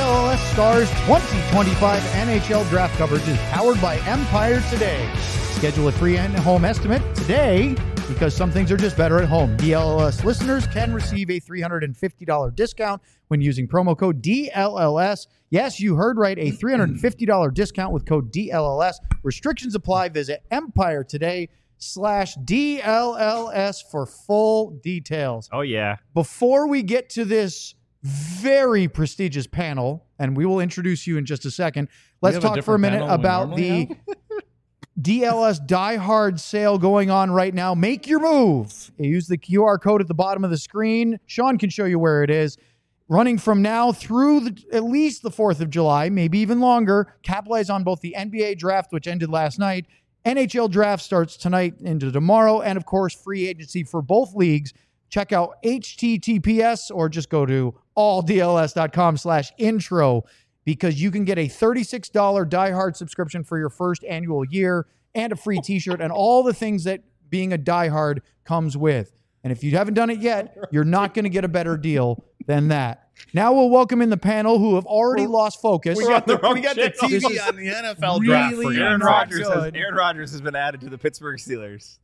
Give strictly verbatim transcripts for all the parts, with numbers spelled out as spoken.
L L S Stars twenty twenty-five N H L Draft coverage is powered by Empire Today. Schedule a free in-home estimate today because some things are just better at home. D L L S listeners can receive a three hundred fifty dollars discount when using promo code D L L S. Yes, you heard right, a three hundred fifty dollars discount with code D L L S. Restrictions apply. Visit Empire Today slash D L L S for full details. Oh, yeah. Before we get to this very prestigious panel, and we will introduce you in just a second, let's talk for a minute about the D L S Die Hard sale going on right now. Make your move. Use the Q R code at the bottom of the screen. Sean can show you where it is. Running from now through the, at least the fourth of July, maybe even longer. Capitalize on both the N B A draft, which ended last night. N H L draft starts tonight into tomorrow. And, of course, free agency for both leagues. Check out H T T P S or just go to alldls.com slash intro because you can get a thirty-six dollars Die Hard subscription for your first annual year and a free t-shirt and all the things that being a Die Hard comes with. And if you haven't done it yet, you're not going to get a better deal than that. Now we'll welcome in the panel who have already lost focus. We got the, we got the T V on the N F L draft. Really Aaron not Rodgers, has, good. Aaron Rodgers has been added to the Pittsburgh Steelers.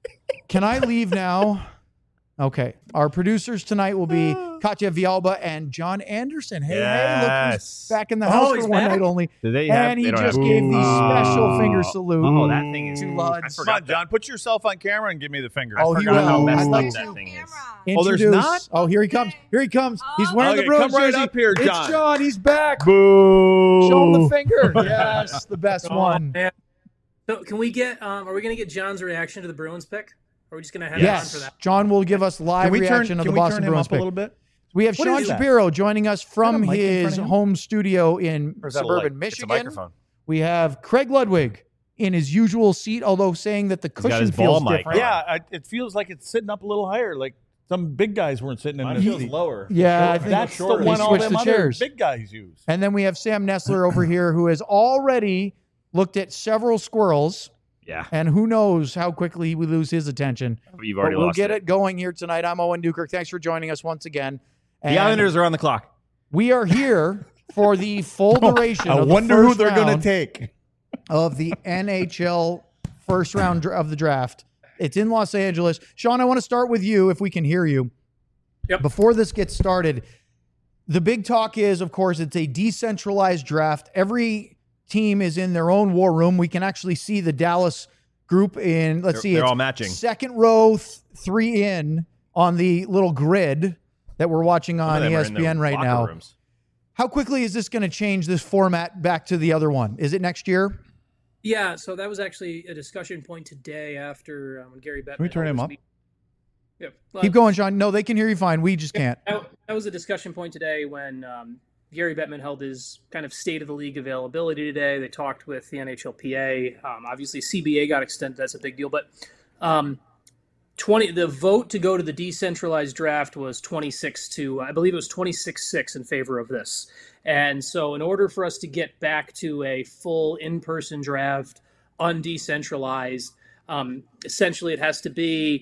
Can I leave now? Okay. Our producers tonight will be Katya Vialba and John Anderson. Hey, hey, look who's Yes. back in the Oh, house he's for one back? night only. Do they have, And he they don't just have- gave the Oh. special finger salute. Oh, that thing is. To I Luds. Come forgot on, John. Put yourself on camera and give me the finger. Oh, I he forgot how will. messed I'd up like that to thing is. Oh, there's Introduce- not? Oh, here he comes. Here he comes. He's wearing Okay, the Bruins come right jersey. up here, It's John. John. He's back. Boo. Show him the finger. Yes, the best Oh, one. man. So can we get? Um, are we going to get John's reaction to the Bruins pick? Or are we just going to have Yes, him on for that? John will give us live Can we turn, reaction of can the we Boston turn him Bruins up a pick. little bit? We have What Sean is that? Shapiro joining us from mic in his front of him? home studio in Or is that a suburban light? It's a Michigan. microphone. We have Craig Ludwig in his usual seat, although saying that the got cushion his ball feels mic. different. Yeah, I, it feels like it's sitting up a little higher. Like some big guys weren't sitting in Mine this feels seat. lower. Yeah, I think That's the he one all switched them the other chairs. big guys use. And then we have Sam Nestler over here who has already looked at several squirrels, Yeah. and who knows how quickly we lose his attention. You've But already we'll lost get it going here tonight. I'm Owen Newkirk. Thanks for joining us once again. And The Islanders are on the clock. we are here for the full duration I of the wonder who first they're going round to take. of the N H L first round dr- of the draft. It's in Los Angeles. Sean, I want to start with you if we can hear you. Yep. Before this gets started, the big talk is, of course, it's a decentralized draft. Every team is in their own war room. We can actually see the Dallas group in, let's They're- see, they're it's all matching. second row, th- three in on the little grid that we're watching Some of on them E are S in P their N right locker now. rooms. How quickly is this going to change this format back to the other one? Is it next year? Yeah, so that was actually a discussion point today after um, Gary Bettman. Can we turn held him his up? meet- Yeah, well, Keep going, Sean. No, they can hear you fine. We just can't. That, that was a discussion point today when um, Gary Bettman held his kind of state of the league availability today. They talked with the N H L P A. Um, obviously, C B A got extended. That's a big deal. But um, twenty the vote to go to the decentralized draft was twenty-six to, I believe it was twenty-six six in favor of this. And so in order for us to get back to a full in-person draft, undecentralized, um, essentially it has to be,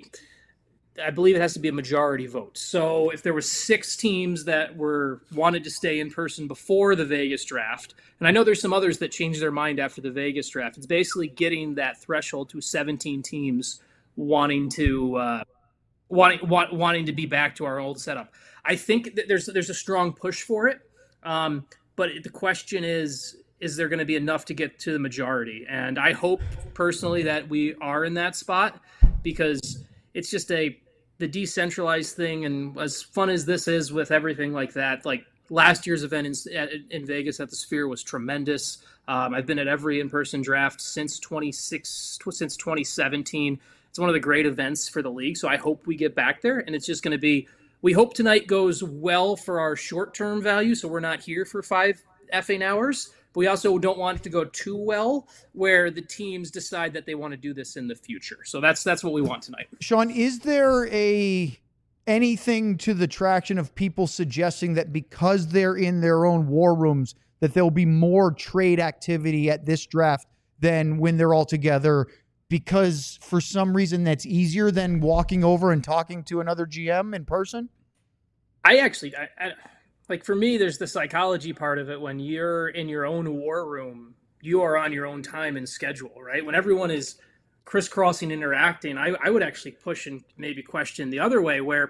I believe it has to be a majority vote. So if there were six teams that were wanted to stay in person before the Vegas draft, and I know there's some others that changed their mind after the Vegas draft, it's basically getting that threshold to seventeen teams wanting to uh, wanting want, wanting to be back to our old setup. I think that there's there's a strong push for it, um, but the question is, is there going to be enough to get to the majority? And I hope personally that we are in that spot because it's just a the decentralized thing, and as fun as this is with everything like that, like last year's event in, in Vegas at the Sphere was tremendous. Um, I've been at every in-person draft since twenty-six since twenty seventeen. It's one of the great events for the league, so I hope we get back there. And it's just going to be, we hope tonight goes well for our short-term value, so we're not here for five effing hours. But we also don't want it to go too well where the teams decide that they want to do this in the future. So that's that's what we want tonight. Sean, is there a anything to the traction of people suggesting that because they're in their own war rooms, that there'll be more trade activity at this draft than when they're all together? Because for some reason that's easier than walking over and talking to another G M in person? I actually, I, I, like for me, there's the psychology part of it. When you're in your own war room, you are on your own time and schedule, right? When everyone is crisscrossing, interacting, I, I would actually push and maybe question the other way, where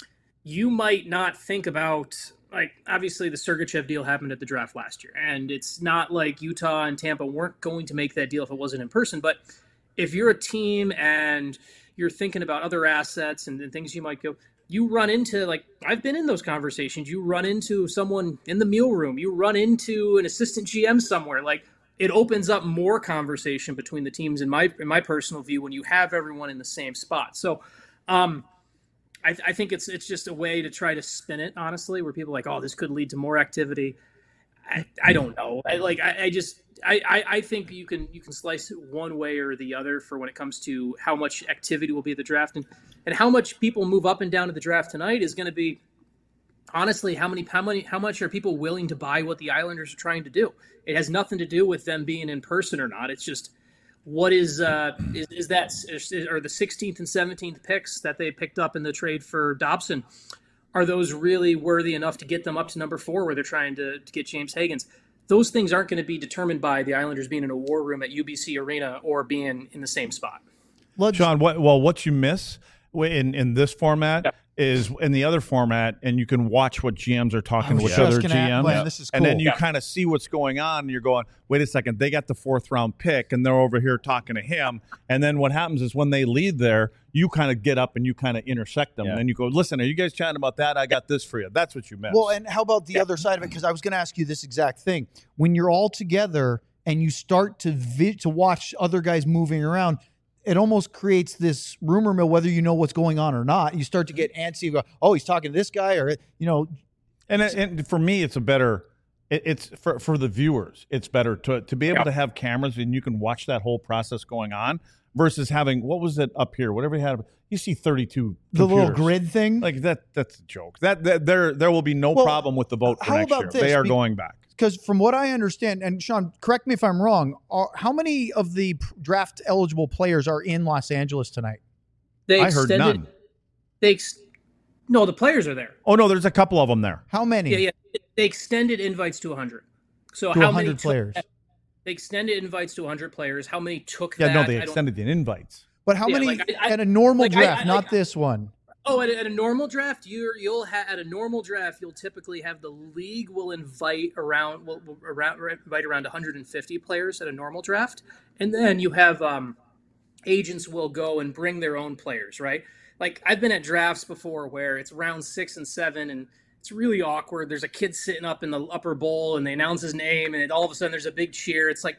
you might not think about, like, obviously the Sergachev deal happened at the draft last year, and it's not like Utah and Tampa weren't going to make that deal if it wasn't in person. But if you're a team and you're thinking about other assets and, and things you might go, you run into, like, I've been in those conversations. You run into someone in the meal room. You run into an assistant G M somewhere. Like, it opens up more conversation between the teams, in my in my personal view, when you have everyone in the same spot. So um, I, I think it's it's just a way to try to spin it, honestly, where people are like, oh, this could lead to more activity. I, I don't know. I, like, I, I just I, I, I think you can you can slice it one way or the other for when it comes to how much activity will be at the draft, and, and how much people move up and down to the draft tonight is going to be, honestly, how many how many how much are people willing to buy what the Islanders are trying to do? It has nothing to do with them being in person or not. It's just, what is uh, is, is that is, are the sixteenth and seventeenth picks that they picked up in the trade for Dobson? Are those really worthy enough to get them up to number four, where they're trying to, to get James Higgins? Those things aren't going to be determined by the Islanders being in a war room at U B C Arena or being in the same spot. John, what, well, what you miss in, in this format yep. is in the other format, and you can watch what G Ms are talking with other G Ms. Plan, this is cool. And then you yeah. kind of see what's going on, and you're going, wait a second, they got the fourth round pick, and they're over here talking to him. And then what happens is when they lead there, you kind of get up and you kind of intersect them. Yeah. And then you go, listen, are you guys chatting about that? I got this for you. That's what you meant. Well, and how about the yeah. other side of it? Because I was going to ask you this exact thing. When you're all together and you start to vi- to watch other guys moving around, it almost creates this rumor mill, whether you know what's going on or not. You start to get antsy. You go, oh, he's talking to this guy, or, you know. And, and for me, it's a better it, – it's for, for the viewers, it's better to, to be able yeah. to have cameras and you can watch that whole process going on versus having – what was it up here? Whatever you had – you see thirty-two The computers. little grid thing? Like that. That's a joke. That, that There there will be no well, problem with the vote for next year. This? They are Be- going back. Because from what I understand, and Sean, correct me if I'm wrong, are, how many of the draft eligible players are in Los Angeles tonight? They I heard none. They ex- no, the players are there. Oh no, there's a couple of them there. How many? Yeah, yeah. They extended invites to one hundred. So to how one hundred many players? Took, they extended invites to one hundred players. How many took yeah, that? Yeah, no, they extended the invites. But how yeah, many like I, I, at a normal like draft, I, I, not like, this one? Oh, at a, at a normal draft, you're, you'll ha- at a normal draft, you'll typically have the league will invite around will, will around invite around one hundred fifty players at a normal draft, and then you have um, agents will go and bring their own players, right? Like, I've been at drafts before where it's round six and seven, and it's really awkward. There's a kid sitting up in the upper bowl, and they announce his name, and it, all of a sudden there's a big cheer. It's like,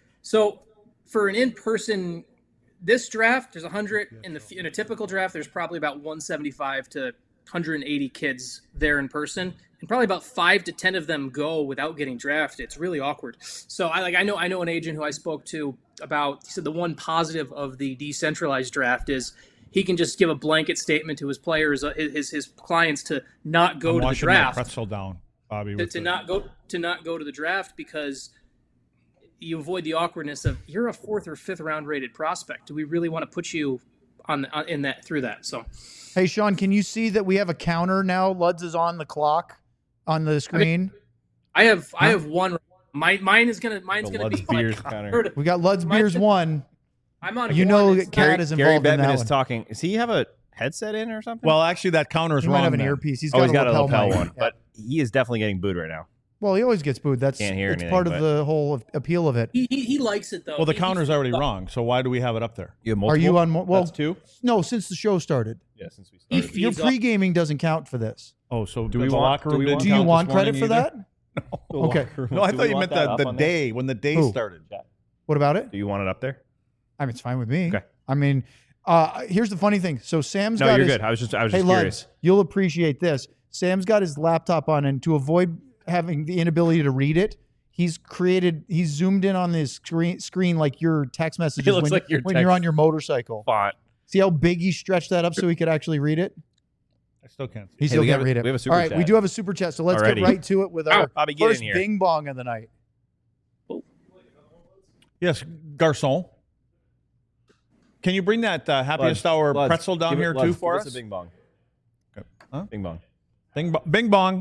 so for an in-person. This draft, there's one hundred in the in a typical draft. There's probably about one seventy-five to one hundred eighty kids there in person, and probably about five to ten of them go without getting drafted. It's really awkward. So I like I know I know an agent who I spoke to about. He said the one positive of the decentralized draft is he can just give a blanket statement to his players, uh, his his clients, to not go I'm to the draft. My pretzel down, Bobby. To, to the... not go to not go to the draft because you avoid the awkwardness of you're a fourth or fifth round rated prospect. Do we really want to put you on, on in that through that? So, hey Sean, can you see that we have a counter now? Luds is on the clock on the screen. I, mean, I have huh? I have one. My mine is gonna mine's the gonna Luds be beers like, counter. We got Luds beers one. I'm on. You one. know, Cat is involved Gary in Bettman that is one. talking. Does he have a headset in or something? Well, actually, that counter is he wrong. Might have an then. earpiece. He's got, oh, he's a, got lapel a lapel mic. one, yeah. but he is definitely getting booed right now. Well, he always gets booed. That's Can't hear it's anything, part of but... the whole appeal of it. He, he, he likes it though. Well, the he, counter's already wrong, so why do we have it up there? You have Are you on? Mo- well, That's two. No, since the show started. Yeah, since we He started. Your feeds pre-gaming doesn't count for this. Oh, so Do the we want- locker do room we didn't want- Do you count want this credit morning for either? that? The Okay. locker room. No, I Do thought we you want meant that the, up the on there? day when the day Who? started. What about it? Do you want it up there? I mean, it's fine with me. Okay. I mean, uh, here's the funny thing. So Sam's No, got you're his, good. I was just I was Hey, just Luds, curious. you'll appreciate this. Sam's got his laptop on, and to avoid having the inability to read it, he's created, he's zoomed in on this screen, screen like your text messages It looks when, like your when text you're on your motorcycle. Font. See how big he stretched that up so he could actually read it? I still can't see. He Hey, still we can't have a- read it. we have a super All right, chat. we do have a super chat, so let's Already. get right to it with our Bobby, get first in here. bing bong of the night. Yes, Garcon. Can you bring that uh, happiest Luds, hour Luds, pretzel down give it- here Luds, too for give us? us a bing bong. Huh? Bing bong. Bing, bo- bing bong.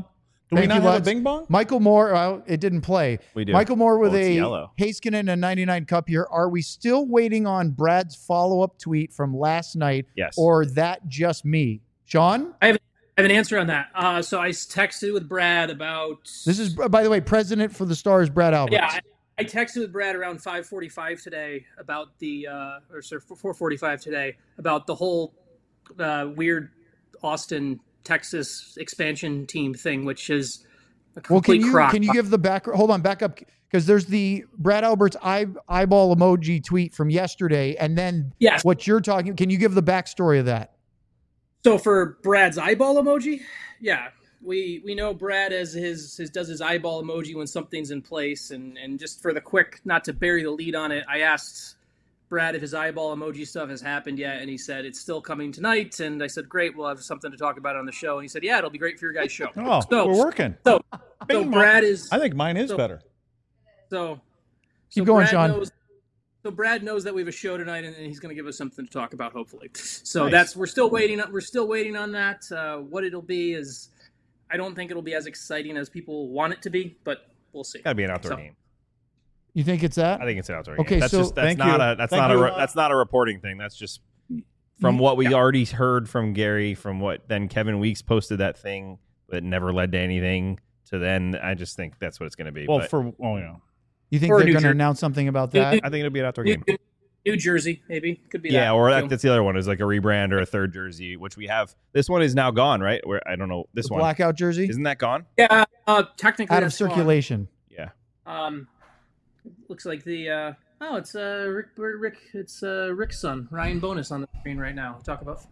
Do Thank we not you, have Lutz. a bing bong? Michael Moore, well, it didn't play. We do. Michael Moore with Well, it's a yellow. Heiskanen and ninety-nine cup here. Are we still waiting on Brad's follow-up tweet from last night? Yes. Or that just me? Sean? I have, I have an answer on that. Uh, so I texted with Brad about. This is, by the way, president for the Stars, Brad Alberts. Yeah, I, I texted with Brad around five forty-five today about the, uh, or sorry, four forty-five today about the whole uh, weird Austin, Texas expansion team thing, which is a complete well, can you, crock. can you give the back? Hold on, back up. Because there's the Brad Alberts eye, eyeball emoji tweet from yesterday. And then yes. what you're talking, can you give the backstory of that? So for Brad's eyeball emoji, yeah, we we know Brad as his, his does his eyeball emoji when something's in place, and and just for the quick, not to bury the lead on it, I asked Brad if his eyeball emoji stuff has happened yet, and he said it's still coming tonight, and I said great, we'll have something to talk about on the show, and he said yeah, it'll be great for your guys' show. Oh, so, we're working. So so Brad is. I think mine is so, better. So keep so going, Brad Sean. Knows, So Brad knows that we have a show tonight, and he's going to give us something to talk about, hopefully. So Nice. that's we're still waiting. We're still waiting on that. Uh, what it'll be is, I don't think it'll be as exciting as people want it to be, but we'll see. Got to be an outdoor So- game. You think it's that? I think it's an outdoor Okay, game. That's so- just that's Thank not you. a that's Thank not you. a re- that's not a reporting thing. That's just from what we already heard from Gary. From what then Kevin Weeks posted that thing that never led to anything. To then, I just think that's what it's going to be. Well, But for oh yeah, You think Or they're New going to Jersey. announce something about New- that? I think it'll be an outdoor New, game. New Jersey, maybe could be. Yeah, that, or too. that, that's the other one is like a rebrand or a third jersey, which we have. This one is now gone, right? Where I don't know this The one blackout jersey? isn't that gone? yeah, uh, technically Out of that's gone. circulation. Yeah. Um, looks like the uh, oh, it's uh Rick, Rick, it's uh Rick's son, Ryan Bonus on the screen right now. Talk about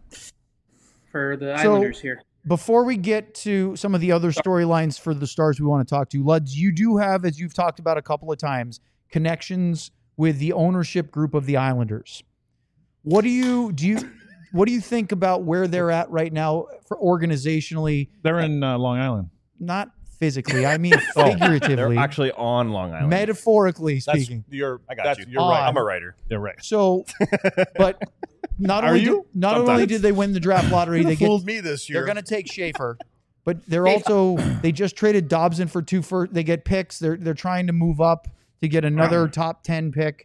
for the So- Islanders here. Before we get to some of the other storylines for the Stars we want to talk to, Luds, you do have, as you've talked about a couple of times, connections with the ownership group of the Islanders. What do you do? You, what do you think about where they're at right now for organizationally? they're in uh, Long Island. Not physically, I mean They're figuratively, actually on Long Island. metaphorically That's speaking. you're. I got that's, you. You're right. Uh, I'm a writer. You're right. So, but not Are only you? did, not only Sometimes. did they win the draft lottery, they get fooled me this year. they're going to take Schaefer, but they're also they just traded Dobson for two first. They get picks. They're they're trying to move up to get another top ten pick.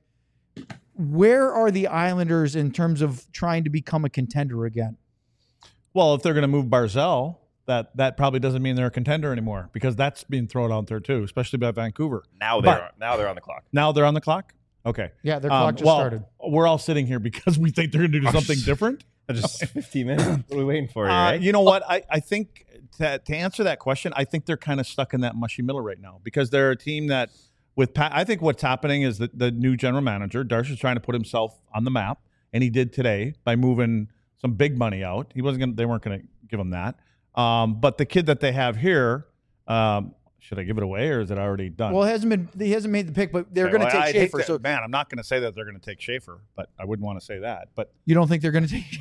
Where are the Islanders in terms of trying to become a contender again? Well, if they're going to move Barzell, that that probably doesn't mean they're a contender anymore because that's being thrown out there too, especially by Vancouver. Now they're But- now they're on the clock. Now they're on the clock. Okay. Yeah, their Um, clock just well, started. We're all sitting here because we think they're going to do something different. Just fifteen minutes. What are we waiting for? Here, Uh, right? you know what? I, I think to, to answer that question, I think they're kind of stuck in that mushy middle right now because they're a team that, with Pat, I think what's happening is that the new general manager, Darcy's trying to put himself on the map, and he did today by moving some big money out. He wasn't going. They weren't going to give him that. Um, but the kid that they have here, um, should I give it away or is it already done? Well, it hasn't been he hasn't made the pick, but they're Okay, going to well, take I hate Schaefer. to- So man, I'm not going to say that they're going to take Schaefer, but I wouldn't want to say that. But you don't think they're going to take?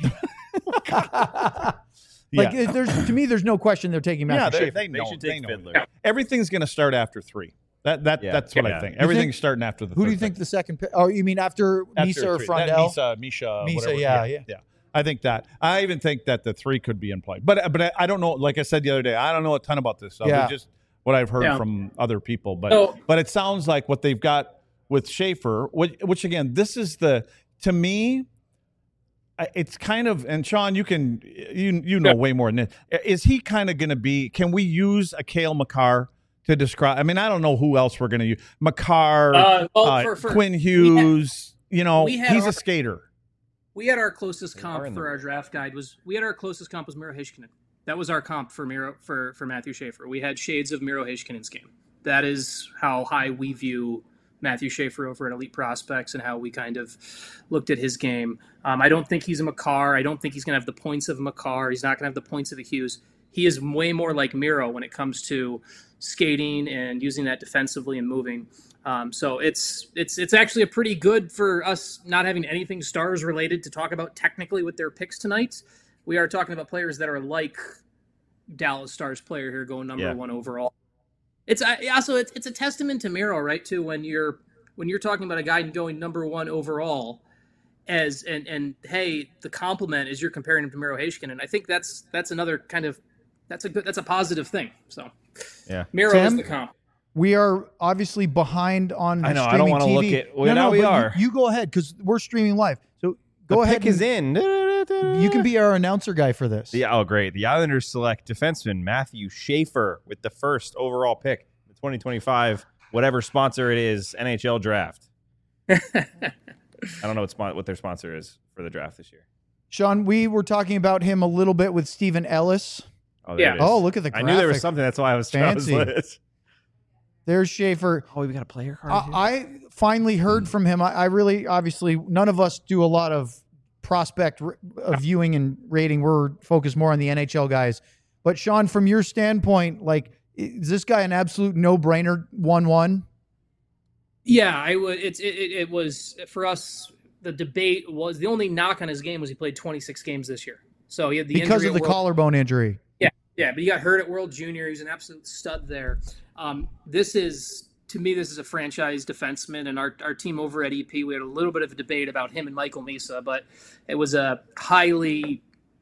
Like yeah, there's to me, there's no question they're taking yeah, Matthew they, Schaefer. they know. They should they take know. Fiddler. Everything's going to start after three. That that Yeah. that's what Yeah. I think. You Everything's think- starting after the. Who do you third think pick. the second pick? Oh, you mean after, After Misa or three. That Frondell? Misa, Misha, Misa, whatever. yeah, yeah, yeah. I think that. I even think that the three could be in play. But but I, I don't know. Like I said the other day, I don't know a ton about this. So Yeah. just what I've heard Yeah. from other people. But So- but it sounds like what they've got with Schaefer, which, which again, this is the to me. I- It's kind of, and Sean, you can you you know Yeah. way more than this. Is he kind of going to be? Can we use a Cale Makar to describe? I mean, I don't know who else we're going to use. Makar, Uh, well, uh, for- for- Quinn Hughes. you know, we had he's our- a skater. We had our closest They comp are in for the- our draft guide was we had our closest comp was Miro Heiskanen. That was our comp for Miro for for Matthew Schaefer. We had shades of Miro Heiskanen's game. That is how high we view Matthew Schaefer over at Elite Prospects and how we kind of looked at his game. Um, I don't think he's a Makar. I don't think he's going to have the points of a Makar. He's not going to have the points of a Hughes. He is way more like Miro when it comes to skating and using that defensively and moving. Um, so it's it's it's actually a pretty good for us not having anything Stars related to talk about technically with their picks tonight. We are talking about players that are like Dallas Stars player here going number Yeah. one overall. It's uh, also it's it's a testament to Miro, right? Too when you're when you're talking about a guy going number one overall, as and and hey, the compliment is you're comparing him to Miro Heiskanen. I think that's that's another kind of that's a good, that's a positive thing. So yeah, Miro Sam? is the comp. We are obviously behind on the I know. I streaming don't want to T look V. at. Well, no, now no, we but are. You, you go ahead because we're streaming live. So go the ahead. Pick is in. You can be our announcer guy for this. The, oh, great. The Islanders select defenseman Matthew Schaefer with the first overall pick, the twenty twenty-five, whatever sponsor it is, N H L draft. I don't know what, spon- what their sponsor is for the draft this year. Sean, we were talking about him a little bit with Stephen Ellis. Oh, there Yeah. it is. Oh, look at the I graphic. knew there was something. That's why I was Fancy. trying to There's Schaefer. Oh, we got a player card. I, I finally heard from him. I, I really, obviously, none of us do a lot of prospect r- uh, viewing and rating. We're focused more on the N H L guys. But Sean, from your standpoint, like, is this guy an absolute no-brainer one one? Yeah, I would. It's it, it, it was for us. The debate was the only knock on his game was he played twenty-six games this year. So he had the Because injury of the at World, collarbone injury. Yeah, yeah, but he got hurt at World Junior. He was an absolute stud there. Um, this is to me, this is a franchise defenseman, and our our team over at E P, we had a little bit of a debate about him and Michael Misa, but it was a highly.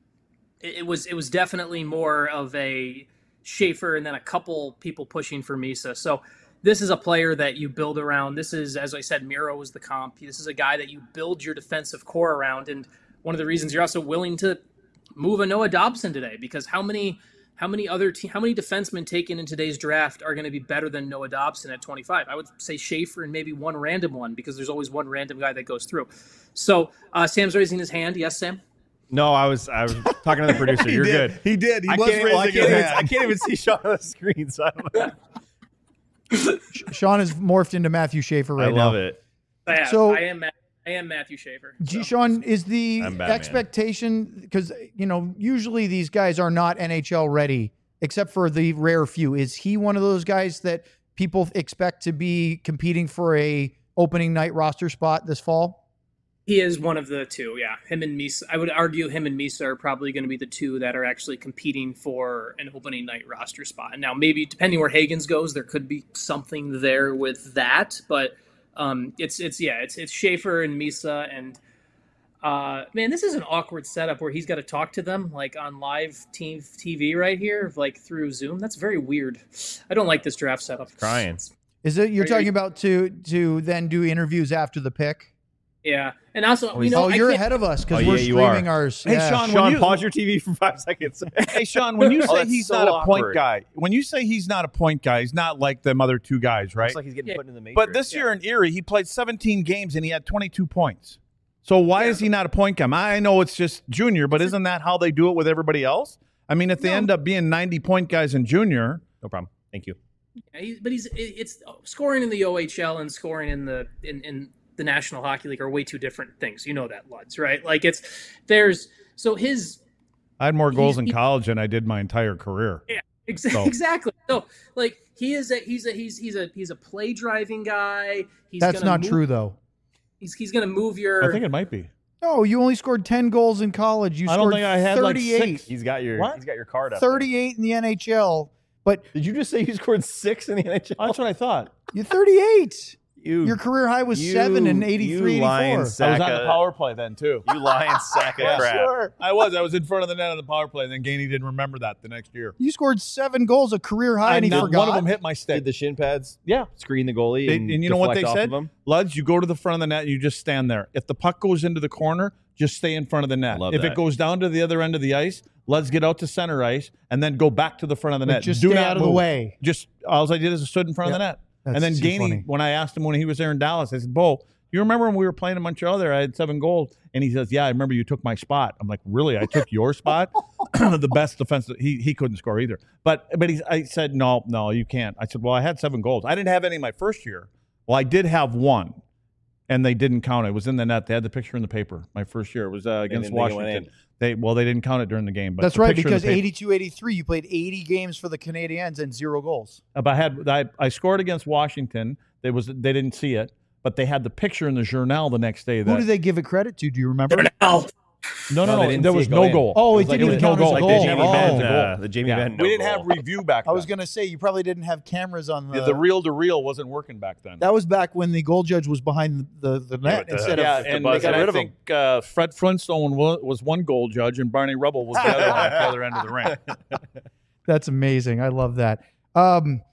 It was it was definitely more of a Schaefer and then a couple people pushing for Misa. So this is a player that you build around. This is, as I said, Miro was the comp. This is a guy that you build your defensive core around. And one of the reasons you're also willing to move a Noah Dobson today, because how many how many other te- how many defensemen taken in today's draft are going to be better than Noah Dobson at twenty-five? I would say Schaefer and maybe one random one, because there's always one random guy that goes through. So uh, Sam's raising his hand. Yes, Sam? No, I was I was talking to the producer. You're did. good. He did. He I was can't, raising well, I, his can't even, hand. I can't even see Sean on the screen. So I don't know. Sean has morphed into Matthew Schaefer right I love now. it. I am. So- I am. Ma- I am Matthew Schaefer. G- so. Sean, is the I'm Batman. expectation, because, you know, usually these guys are not N H L ready, except for the rare few. Is he one of those guys that people expect to be competing for a opening night roster spot this fall? He is one of the two, yeah. Him and Misa. I would argue him and Misa are probably going to be the two that are actually competing for an opening night roster spot. And now, maybe depending where Hagens goes, there could be something there with that. But um, it's it's yeah, it's it's Schaefer and Misa, and uh, man, this is an awkward setup where he's got to talk to them like on live team T V right here, like through Zoom. That's very weird. I don't like this draft setup. Crying. Is it you're Are you- talking about to to then do interviews after the pick? Yeah, and also, Oh, you he's- know, oh, I you're can't- ahead of us because Oh, we're yeah, you streaming are. ours. Hey, Yeah. Sean, when Sean, you- pause your T V for five seconds. Hey, Sean, when you Oh, say that's he's so not a point awkward. guy, when you say he's not a point guy, he's not like them other two guys, right? Looks like he's getting Yeah. put in the matrix. But this year in Erie, he played seventeen games and he had twenty-two points. So why Yeah. is he not a point guy? I know it's just junior, but isn't that how they do it with everybody else? I mean, if they No. end up being ninety point guys in junior, no problem. Thank you. Yeah, he, but he's it- it's scoring in the O H L and scoring in the in, in the National Hockey League are way two different things. You know that, Luds, right? Like it's there's so his I had more goals He's- in he- college than I did my entire career. ex- So- exactly. So like he is a he's a he's he's a he's a play driving guy. He's That's gonna not move, true though. He's he's gonna move your. I think it might be. No, you only scored ten goals in college. You I don't scored think I had, like, thirty-eight. six. He's got your What? he's got your card up. there. thirty-eight in the N H L, but Did you just say you scored six in the N H L? That's what I thought. you're thirty-eight. You, Your career high was you- seven in you eighty-three, lying eighty-four. sack I was on of- the power play then too. You lying sack of Yeah, crap. Sure. I was. I was in front of the net on the power play, and then Gainey didn't remember that the next year. You scored seven goals, a career high, and he not forgot. one of them hit my stick. Did the shin pads Yeah. screen the goalie They- and, and you know what they deflect off said? of him? Luds, you go to the front of the net and you just stand there. If the puck goes into the corner, just stay in front of the net. Love if that. it goes down to the other end of the ice, let's get out to center ice and then go back to the front of the Like, net. just Do stay not out of the move. way. Just all I did is I stood in front of the net. That's and then too Gainey, funny. when I asked him when he was there in Dallas, I said, Bo, you remember when we were playing in Montreal there, I had seven goals? And he says, yeah, I remember you took my spot. I'm like, really? I took your spot? The best defensive. He he couldn't score either. But but he, I said, no, no, you can't. I said, well, I had seven goals. I didn't have any my first year. Well, I did have one, and they didn't count it. It was in the net. They had the picture in the paper. My first year. It was uh, against didn't think it went Washington. They Well, they didn't count it during the game. But That's the right, picture in the because paper- eighty-two eighty-three, you played eighty games for the Canadiens and zero goals. Uh, But I had I, I scored against Washington. They was they didn't see it, but they had the picture in the Journal the next day. That, Who did they give it credit to? Do you remember? Now, No, no, No, they no. didn't There see was it go no in. goal. Oh, it was like didn't even was count as a like goal. the the Jamie Jamie Oh. Benn, Benn uh, goal. the Jamie Yeah. Benn. We no didn't goal. have review back I then. was going to say, you probably didn't have cameras on the. Yeah, the reel to reel wasn't working back then. That was back when the goal judge was behind the, the, the net with the- instead yeah, of. and, buzzer. and Got rid I of him. think uh, Fred Flintstone wa- was one goal judge, and Barney Rubble was the other one at the other end of the ring. That's amazing. I love that. Um,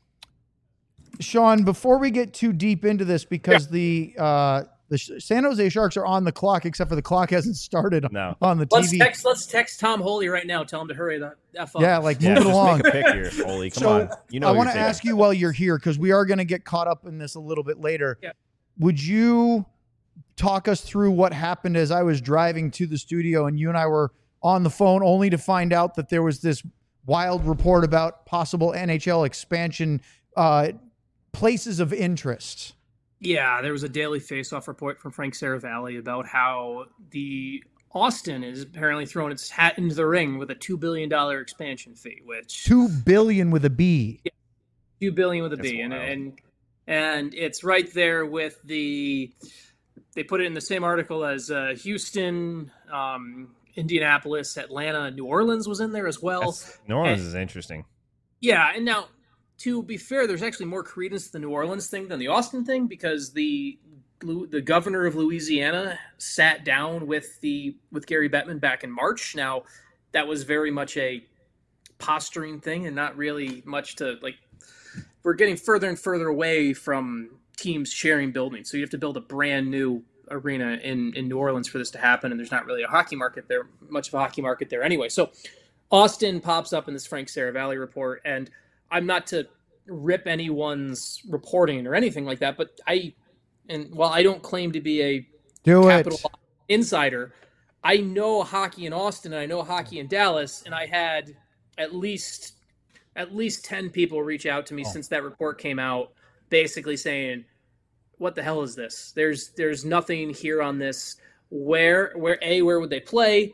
Sean, before we get too deep into this, because yeah. the uh, the San Jose Sharks are on the clock, except for the clock hasn't started no. on the let's T V. Text, let's text Tom Holy right now. Tell him to hurry the F up. Yeah, like yeah, move it along. Make a pick here, Holy. Come so on. You know I want to ask you while you're here, because we are going to get caught up in this a little bit later. Yeah. Would you talk us through what happened as I was driving to the studio and you and I were on the phone, only to find out that there was this wild report about possible N H L expansion uh, places of interest? Yeah, there was a daily face-off report from Frank Saravalli about how the Austin is apparently throwing its hat into the ring with a two billion dollars expansion fee, which two billion with a B. Yeah, two billion with a That's B, and, wild. and and it's right there with the. They put it in the same article as uh, Houston, um, Indianapolis, Atlanta, New Orleans was in there as well. That's, New Orleans and, is interesting. Yeah, and now, to be fair, there's actually more credence to the New Orleans thing than the Austin thing, because the the governor of Louisiana sat down with the with Gary Bettman back in March. Now, that was very much a posturing thing and not really much to, like, we're getting further and further away from teams sharing buildings. So you have to build a brand new arena in, in New Orleans for this to happen. And there's not really a hockey market there, much of a hockey market there anyway. So Austin pops up in this Frank Saravalli report, and I'm not to rip anyone's reporting or anything like that, but I, and while I don't claim to be a Do capital it. insider, I know hockey in Austin and I know hockey in Dallas, and I had at least at least ten people reach out to me oh. since that report came out, basically saying, what the hell is this? There's there's nothing here on this. Where where A, where would they play?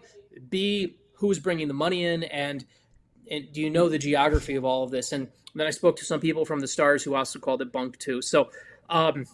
B, who's bringing the money in? And and do you know the geography of all of this? And then I spoke to some people from the Stars who also called it bunk too. So um,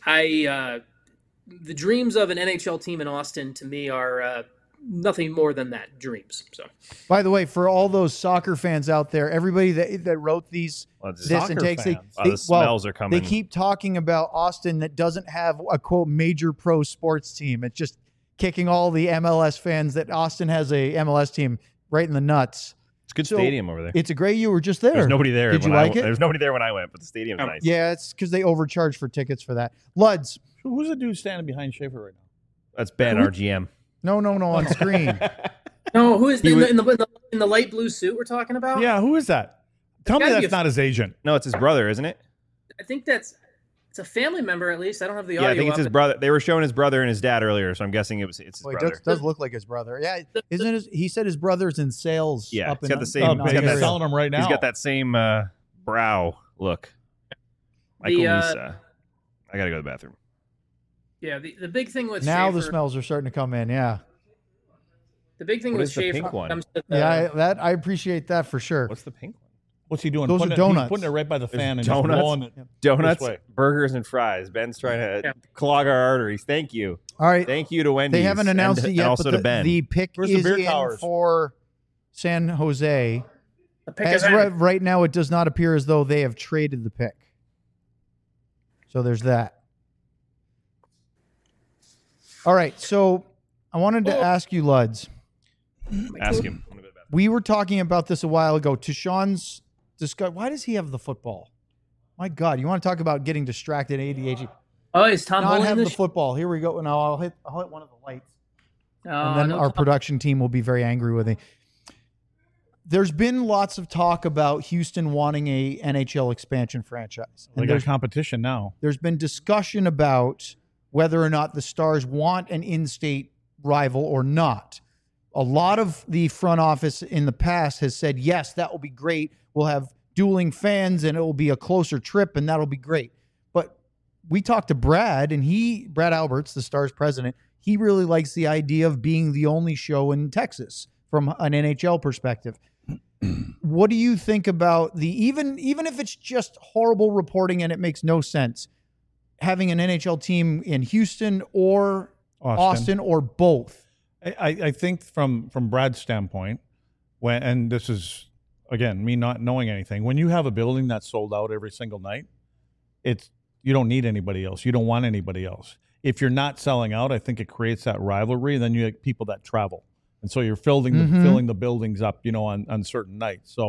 I uh, the dreams of an N H L team in Austin to me are uh, nothing more than that, dreams. So, by the way, for all those soccer fans out there, everybody that that wrote these well, this and takes they, oh, they the smells well, are coming. They keep talking about Austin that doesn't have a quote major pro sports team. It's just kicking all the M L S fans that Austin has a M L S team right in the nuts. It's a good so, stadium over there. It's a great. You were just there. There's nobody there. Did you when like I, it? There's nobody there when I went, but the stadium's oh, nice. Yeah, it's because they overcharge for tickets for that. Luds. Who's the dude standing behind Schaefer right now? That's Ben, our G M. No, no, no, on screen. No, who is the, was, in, the, in, the, in the light blue suit we're talking about? Yeah, who is that? Tell me that's a, not his agent. No, it's his brother, isn't it? I think that's it's a family member at least. I don't have the yeah, audio. I think it's his it. brother. They were showing his brother and his dad earlier, so I'm guessing it was it's his well, brother. It does, does look like his brother. Yeah, isn't it? His, he said his brother's in sales. Yeah, up he's in, got the same. Oh, he's got that, selling them right now. He's got that same uh, brow look. Michael The, uh, Misa. I gotta go to the bathroom. Yeah, the, the big thing with now Schaefer, the smells are starting to come in. Yeah. The big thing What with is the Schaefer pink one? comes to the, Yeah, I, that I appreciate that for sure. What's the pink one? What's he doing? Those putting are it, donuts. He's putting it right by the fan and donuts. just blowing it. Donuts, This way. burgers, and fries. Ben's trying to Yeah. clog our arteries. Thank you. All right. Thank you to Wendy's. They haven't announced and, it yet, and also but to the, Ben. the pick Where's the is beer in towers? for San Jose. the pick As is right, in. right now, it does not appear as though they have traded the pick. So there's that. All right. So I wanted to Oh. ask you, Luds. Ask him. I'm gonna go to the bathroom. We were talking about this a while ago. To Sean's discuss, why does he have the football? My God, you want to talk about getting distracted, A D H D? Oh, is Tom Not holding have the this? football. Here we go. Now I'll hit. I'll hit one of the lights. Oh, and then no, our Tom- production team will be very angry with me. There's been lots of talk about Houston wanting a N H L expansion franchise. They And got there's, competition now. there's been discussion about whether or not the Stars want an in-state rival or not. A lot of the front office in the past has said, yes, that will be great. We'll have dueling fans and it will be a closer trip and that'll be great. But we talked to Brad and he, Brad Alberts, the Stars president, he really likes the idea of being the only show in Texas from an N H L perspective. What do you think about the, even, even if it's just horrible reporting and it makes no sense, having an N H L team in Houston or Austin, Austin or both? I, I think from from Brad's standpoint, when and this is again me not knowing anything, when you have a building that's sold out every single night, it's you don't need anybody else. You don't want anybody else. If you're not selling out, I think it creates that rivalry. Then you have people that travel, and so you're filling the Mhm. filling the buildings up, you know, on on certain nights. So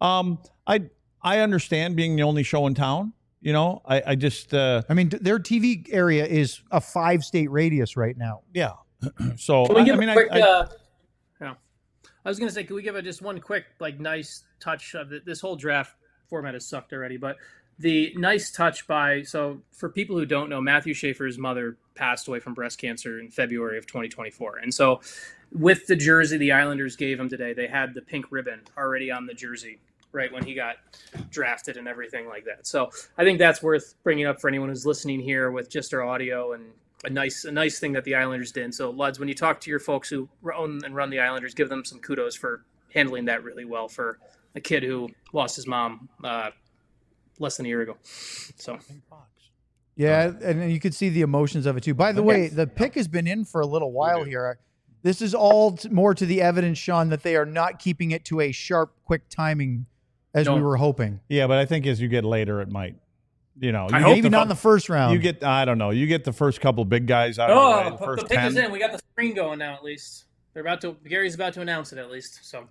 Um, I I understand being the only show in town. You know, I, I just uh, I mean, their T V area is a five state radius right now. Yeah. So Can we I, give I mean, a quick, I, I, uh, yeah. I was gonna say, can we give a, just one quick, like, nice touch of it? This whole draft format has sucked already, but the nice touch by so for people who don't know, Matthew Schaefer's mother passed away from breast cancer in February of twenty twenty-four, and so with the jersey the Islanders gave him today, they had the pink ribbon already on the jersey right when he got drafted and everything like that. So I think that's worth bringing up for anyone who's listening here with just our audio, and a nice a nice thing that the Islanders did. So Luds, when you talk to your folks who own and run the Islanders, give them some kudos for handling that really well for a kid who lost his mom uh, less than a year ago. So yeah, and you could see the emotions of it too. By the way, the pick has been in for a little while here. This is all t- more to the evidence, Sean, that they are not keeping it to a sharp, quick timing as No. we were hoping. yeah, but I think as you get later, it might. You know, you I get hope Maybe the, not in the first round. You get, I don't know, you get the first couple big guys out of the way, Oh, the the, first the pick ten. is in. We got the screen going now. At least they're about to. Gary's about to announce it. At least so.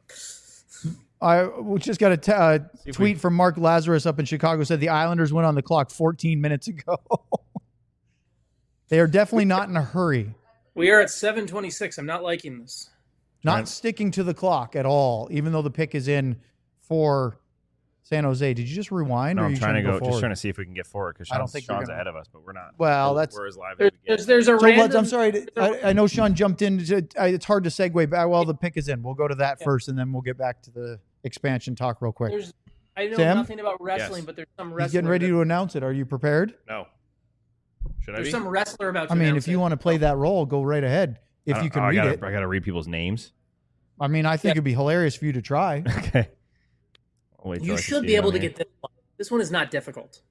I we just got a t- uh, if tweet we- from Mark Lazarus up in Chicago, said the Islanders went on the clock fourteen minutes ago. They are definitely not in a hurry. We are at seven twenty-six. I'm not liking this. Not Right. sticking to the clock at all, even though the pick is in for San Jose. Did you just rewind? No, or are I'm you trying to go, forward? just trying to see if we can get forward because I don't Sean's, think you're Sean's gonna- ahead of us, but we're not. Well, we're, that's- we're as live There's as we there's, get. there's a So, random. Lutz, I'm sorry. to- I, I know Sean jumped in. To, I, it's hard to segue back. Well, the pick is in. We'll go to that Yeah. first, and then we'll get back to the expansion talk real quick. There's, I know Sam? nothing about wrestling, Yes. but there's some He's wrestler. getting ready that- to announce it. Are you prepared? No. Should I There's be? some wrestler about. To I mean, announce if you it. want to play that role, go right ahead. If I don't- you can oh, I read gotta, it. I got to read people's names. I mean, I think Yeah. it'd be hilarious for you to try. Okay. I'll wait till you I can should see be it able on to here. get this one. This one is not difficult.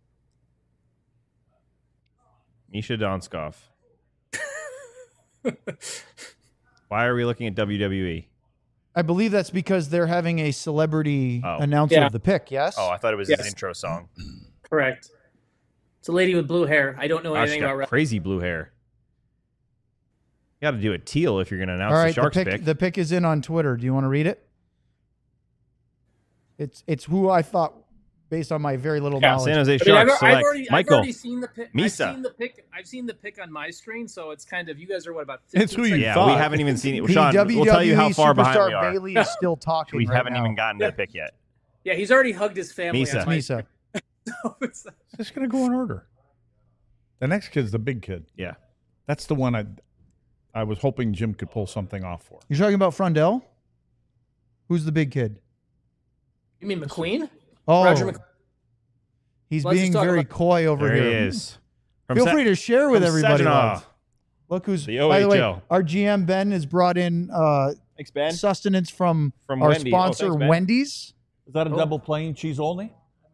Misha Donskov. Why are we looking at W W E? I believe that's because they're having a celebrity Oh. announcer Yeah. of the pick. Yes. Oh, I thought it was Yes. his intro song. Correct. It's a lady with blue hair. I don't know Wow, she's anything got about wrestling. crazy blue hair. You got to do it teal if you're going to announce All right. the Sharks the pick, pick. The pick is in on Twitter. Do you want to read it? It's it's who I thought, based on my very little Yeah, knowledge. San Jose I mean, I've, Sharks I've select already, I've Michael. already seen the pick. Misa. I've seen the pick. I've seen the pick on my screen, so it's kind of you guys are what about? It's who you fifteen Yeah, thought. we haven't even seen it. The Sean, W W E we'll tell you how far behind superstar we are. Bailey is still talking. We right haven't now. even gotten to the pick yet. Yeah, he's already hugged his family. Misa. on my Misa. So it's- It's just going to go in order. The next kid's the big kid. Yeah. That's the one I I was hoping Jim could pull something off for. You're talking about Frondell? Who's the big kid? you mean McQueen? Oh, Roger McQueen. he's Let's just being talk very about- coy over There here. he is. From Feel Sa- free to share with from everybody. Saginaw. Love. Look who's The by the way, O H L. our G M Ben has brought in uh, Thanks, Ben. sustenance from, From our Wendy. Oh, sponsor thanks, Ben. Wendy's. Is that a Oh. double plain cheese only?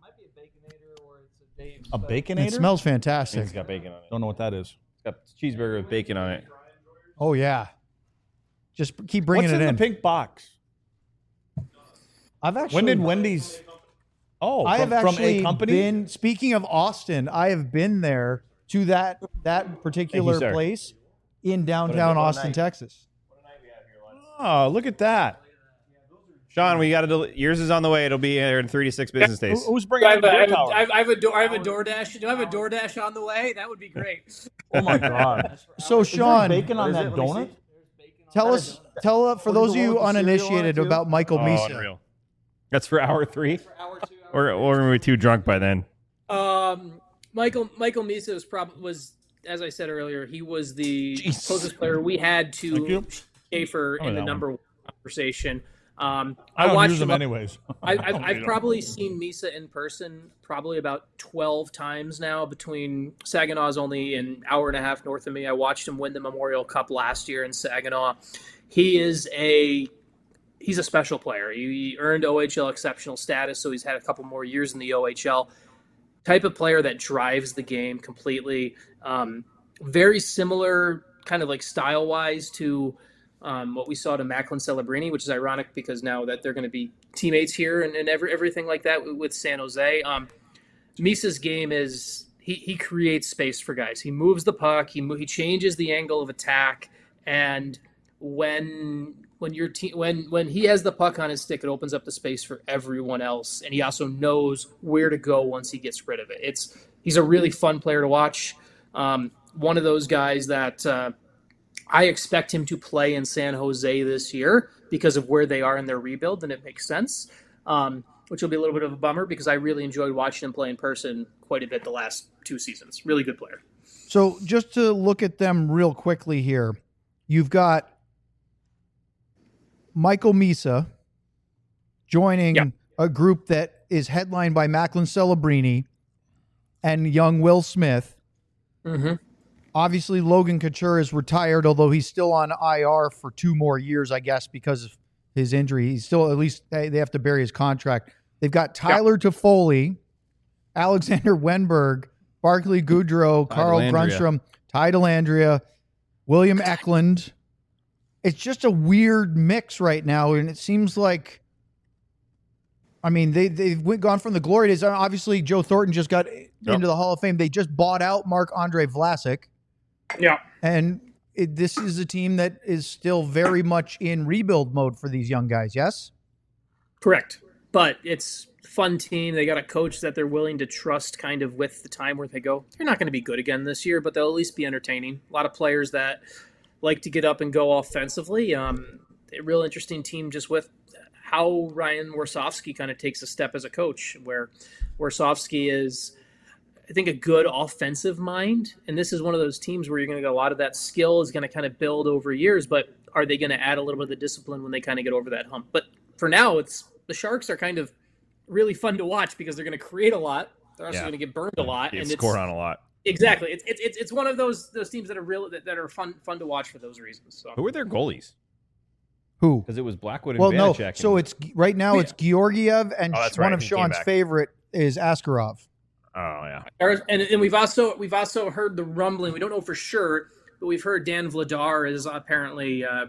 A baconator? It smells I think fantastic. It's got bacon on it. Don't know what that is. It's got cheeseburger with bacon on it. Oh yeah, just keep bringing What's it in, in. the pink box? I've actually When did Wendy's? Oh, I from, have from actually a company. been. Speaking of Austin, I have been there to that that particular sir. place in downtown what a Austin, night. Texas. Oh, look at that. Sean, we got to. Del- yours is on the way. It'll be here in three to six business Who- days. Who's I bringing have, the a, I, have beer a, tower? I have- I have a door. I have a DoorDash. Do I have a DoorDash on the way? That would be great. Oh my god! So Sean, bacon on that donut? tell us, tell uh, for those of you uninitiated about Michael Oh, Misa. unreal. That's for hour three. Or or were we too drunk by then? Um, Michael Michael Misa was probably was as I said earlier. He was the Jeez. closest player we had Thank you. to Schaefer Oh, in the that number one conversation. Um, I I, don't watched use them him. up- anyways. I, I I've, don't I've need 'em. probably seen Misa in person probably about twelve times now. Between Saginaw's only an hour and a half north of me. I watched him win the Memorial Cup last year in Saginaw. He is a he's a special player. He, he earned O H L exceptional status, so he's had a couple more years in the O H L. Type of player that drives the game completely. Um, very similar, kind of like style wise to. Um, what we saw to Macklin Celebrini, which is ironic because now that they're going to be teammates here and, and every, everything like that with, with San Jose. Um, Misa's game is he, he creates space for guys. He moves the puck. He mo- he changes the angle of attack, and when when your team when when he has the puck on his stick, it opens up the space for everyone else, and he also knows where to go once he gets rid of it. It's he's a really fun player to watch. Um, one of those guys that uh, I expect him to play in San Jose this year because of where they are in their rebuild, and it makes sense. Um, which will be a little bit of a bummer because I really enjoyed watching him play in person quite a bit the last two seasons. Really good player. So just to look at them real quickly here, you've got Michael Misa joining yep. a group that is headlined by Macklin Celebrini and young Will Smith. Mm-hmm. Obviously, Logan Couture is retired, although he's still on I R for two more years, I guess, because of his injury. He's still, at least they have to bury his contract. They've got Tyler yep. Toffoli, Alexander Wenberg, Barclay Goodrow, Carl Brunstrom, Ty Dellandrea, William Eklund. It's just a weird mix right now, and it seems like, I mean, they, they've went, gone from the glory days. Obviously, Joe Thornton just got yep. into the Hall of Fame. They just bought out Marc-Andre Vlasic. Yeah. And it, this is a team that is still very much in rebuild mode for these young guys, yes? Correct. But it's a fun team. They got a coach that they're willing to trust kind of with the time where they go. They're not going to be good again this year, but they'll at least be entertaining. A lot of players that like to get up and go offensively. Um, a real interesting team just with how Ryan Warsofsky kind of takes a step as a coach, where Warsofsky is, I think, a good offensive mind. And this is one of those teams where you're going to get a lot of that skill is going to kind of build over years, but are they going to add a little bit of the discipline when they kind of get over that hump? But for now, it's the Sharks are kind of really fun to watch because they're going to create a lot. They're also yeah. going to get burned a lot. Yeah, and score it's, on a lot. Exactly. It's it's it's one of those those teams that are real that, that are fun fun to watch for those reasons. So. Who are their goalies? Who? Because it was Blackwood and well, Vanacek. no. So it's right now it's Georgiev and oh, one right. of he Sean's favorite is Askarov. Oh yeah. And and we've also we've also heard the rumbling. We don't know for sure, but we've heard Dan Vladar is apparently uh,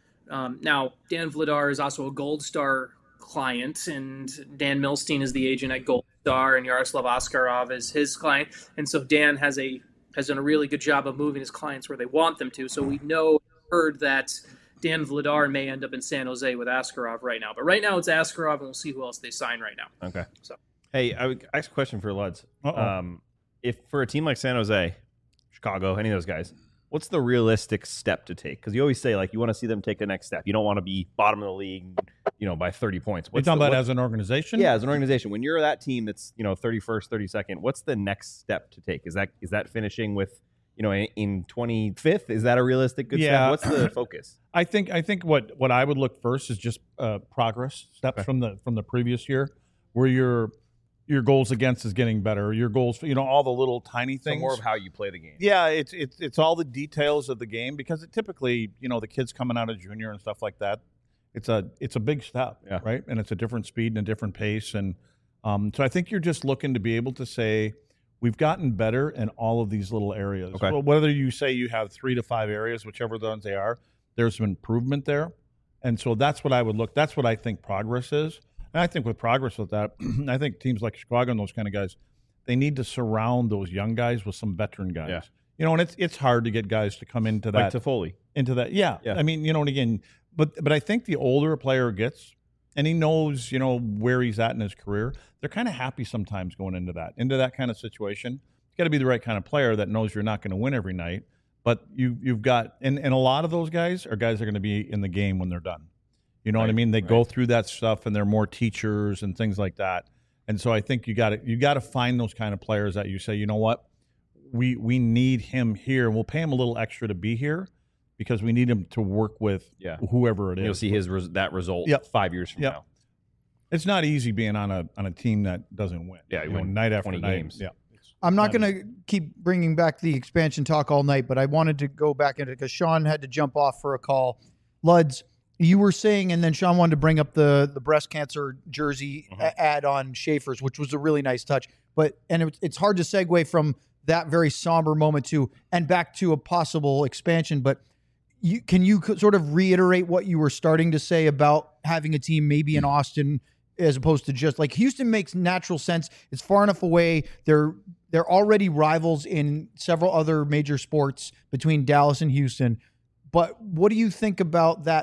um, now Dan Vladar is also a Gold Star client, and Dan Milstein is the agent at Gold Star, and Yaroslav Askarov is his client. And so Dan has a has done a really good job of moving his clients where they want them to. So we know heard that Dan Vladar may end up in San Jose with Askarov right now. But right now it's Askarov, and we'll see who else they sign right now. Okay. So hey, I would ask a question for Luds. Um, if for a team like San Jose, Chicago, any of those guys, what's the realistic step to take? Because you always say, like, you want to see them take the next step. You don't want to be bottom of the league, you know, by thirty points. What's You're talking the, about what, as an organization? Yeah, as an organization. When you're that team that's, you know, thirty-first, thirty-second, what's the next step to take? Is that is that finishing with, you know, in, in twenty-fifth? Is that a realistic good yeah. step? What's the focus? I think I think what, what I would look first is just uh, progress steps okay. from the from the previous year, where your your goals against is getting better. Your goals, you know, all the little tiny things. So more of how you play the game. Yeah, it's it's it's all the details of the game, because it typically, you know, the kids coming out of junior and stuff like that, it's a it's a big step, yeah. right? And it's a different speed and a different pace, and um, so I think you're just looking to be able to say we've gotten better in all of these little areas. Okay. Well, whether you say you have three to five areas, whichever ones they are, there's some improvement there, and so that's what I would look. That's what I think progress is. And I think with progress with that, I think teams like Chicago and those kind of guys, they need to surround those young guys with some veteran guys. Yeah. You know, and it's it's hard to get guys to come into that. Like Toffoli. Into that, yeah. yeah. I mean, you know, and again, but but I think the older a player gets, and he knows, you know, where he's at in his career, they're kind of happy sometimes going into that, into that kind of situation. You got to be the right kind of player that knows you're not going to win every night, but you you've got, and, and a lot of those guys are guys that are going to be in the game when they're done. You know right, what I mean? They right. go through that stuff, and they're more teachers and things like that. And so I think you got to you got to find those kind of players that you say, you know what, we we need him here, and we'll pay him a little extra to be here because we need him to work with yeah. whoever it and is. You'll see his res- that result yep. five years from yep. now. It's not easy being on a on a team that doesn't win. Yeah, you know, night after night. Games. Yeah. I'm not going to keep bringing back the expansion talk all night, but I wanted to go back into it because Sean had to jump off for a call. Luds, you were saying, and then Sean wanted to bring up the the breast cancer jersey mm-hmm. ad on Schaefer's, which was a really nice touch. But and it, it's hard to segue from that very somber moment to and back to a possible expansion. But you, can you sort of reiterate what you were starting to say about having a team maybe in Austin as opposed to just like Houston makes natural sense. It's far enough away. They're they're already rivals in several other major sports between Dallas and Houston. But what do you think about that?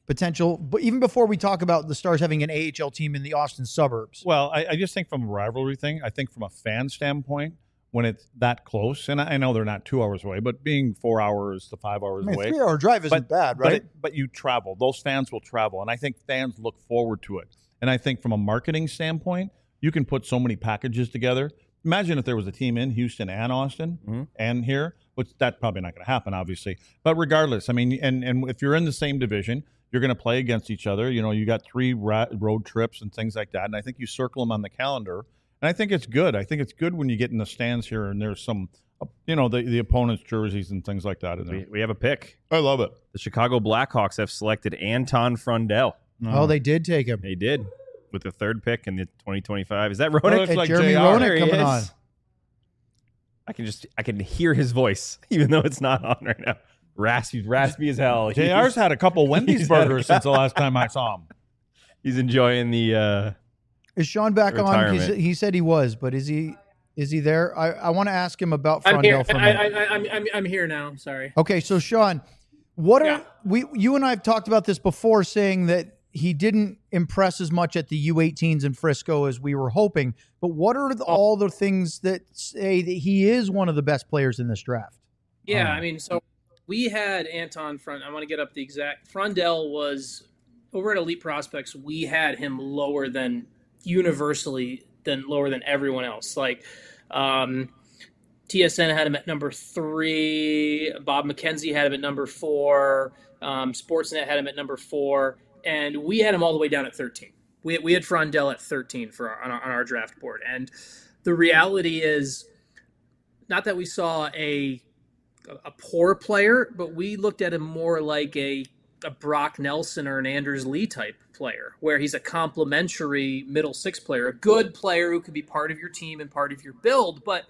potential, but even before we talk about the Stars having an A H L team in the Austin suburbs. Well, I, I just think from a rivalry thing, I think from a fan standpoint, when it's that close, and I, I know they're not two hours away, but being four hours to five hours I mean, away. A three-hour drive isn't but, bad, right? But, it, but you travel. Those fans will travel, and I think fans look forward to it. And I think from a marketing standpoint, you can put so many packages together. Imagine if there was a team in Houston and Austin mm-hmm. and here, which that's probably not going to happen, obviously. But regardless, I mean, and, and if you're in the same division, you're going to play against each other. You know, you got three ra- road trips and things like that. And I think you circle them on the calendar. And I think it's good. I think it's good when you get in the stands here and there's some, you know, the, the opponent's jerseys and things like that in there. We, we have a pick. I love it. The Chicago Blackhawks have selected Anton Frundell. Oh, they did take him. They did. With the third pick in the twenty twenty-five. Is that Oh, Roenick? it's like Jeremy Roenick coming on. I can just, I can hear his voice, even though it's not on right now. Raspy, raspy as hell. J R's had a couple Wendy's burgers since the last time I saw him. He's enjoying the uh Is Sean back retirement. on? He's, he said he was, but is he is he there? I, I want to ask him about I'm here. Frundell for a I, minute. I, I, I'm, I'm, I'm here now. Sorry. Okay, so Sean, what are Yeah. we? You and I have talked about this before, saying that he didn't impress as much at the U eighteens in Frisco as we were hoping. But what are the, all the things that say that he is one of the best players in this draft? Yeah, Um, I mean, so we had Anton Front. I want to get up the exact. Frundell was over at Elite Prospects. We had him lower than universally than lower than everyone else. Like um, T S N had him at number three. Bob McKenzie had him at number four. Um, Sportsnet had him at number four. And we had him all the way down at thirteen. We, we had Frundell at thirteen for our, on, our, on our draft board. And the reality is not that we saw a a poor player, but we looked at him more like a, a Brock Nelson or an Anders Lee type player, where he's a complementary middle six player, a good player who could be part of your team and part of your build. But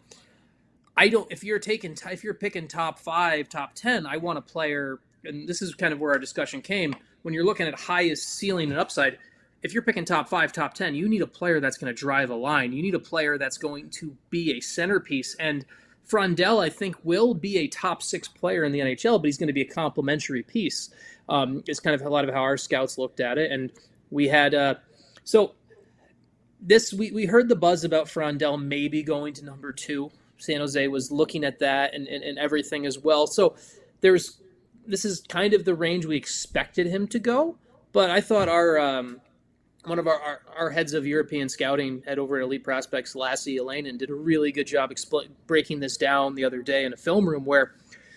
I don't, if you're taking, if you're picking top five, top ten, I want a player, and this is kind of where our discussion came, when you're looking at highest ceiling and upside, if you're picking top five, top ten, you need a player that's going to drive a line. You need a player that's going to be a centerpiece. And Frundell, I think, will be a top six player in the N H L, but he's going to be a complementary piece. Um, it's kind of a lot of how our scouts looked at it. And we had, uh, so this, we, we heard the buzz about Frundell maybe going to number two. San Jose was looking at that and, and, and everything as well. So there's, this is kind of the range we expected him to go, but I thought our um, one of our, our, our heads of European scouting head over at Elite Prospects, Lassie Elainen, did a really good job expl- breaking this down the other day in a film room where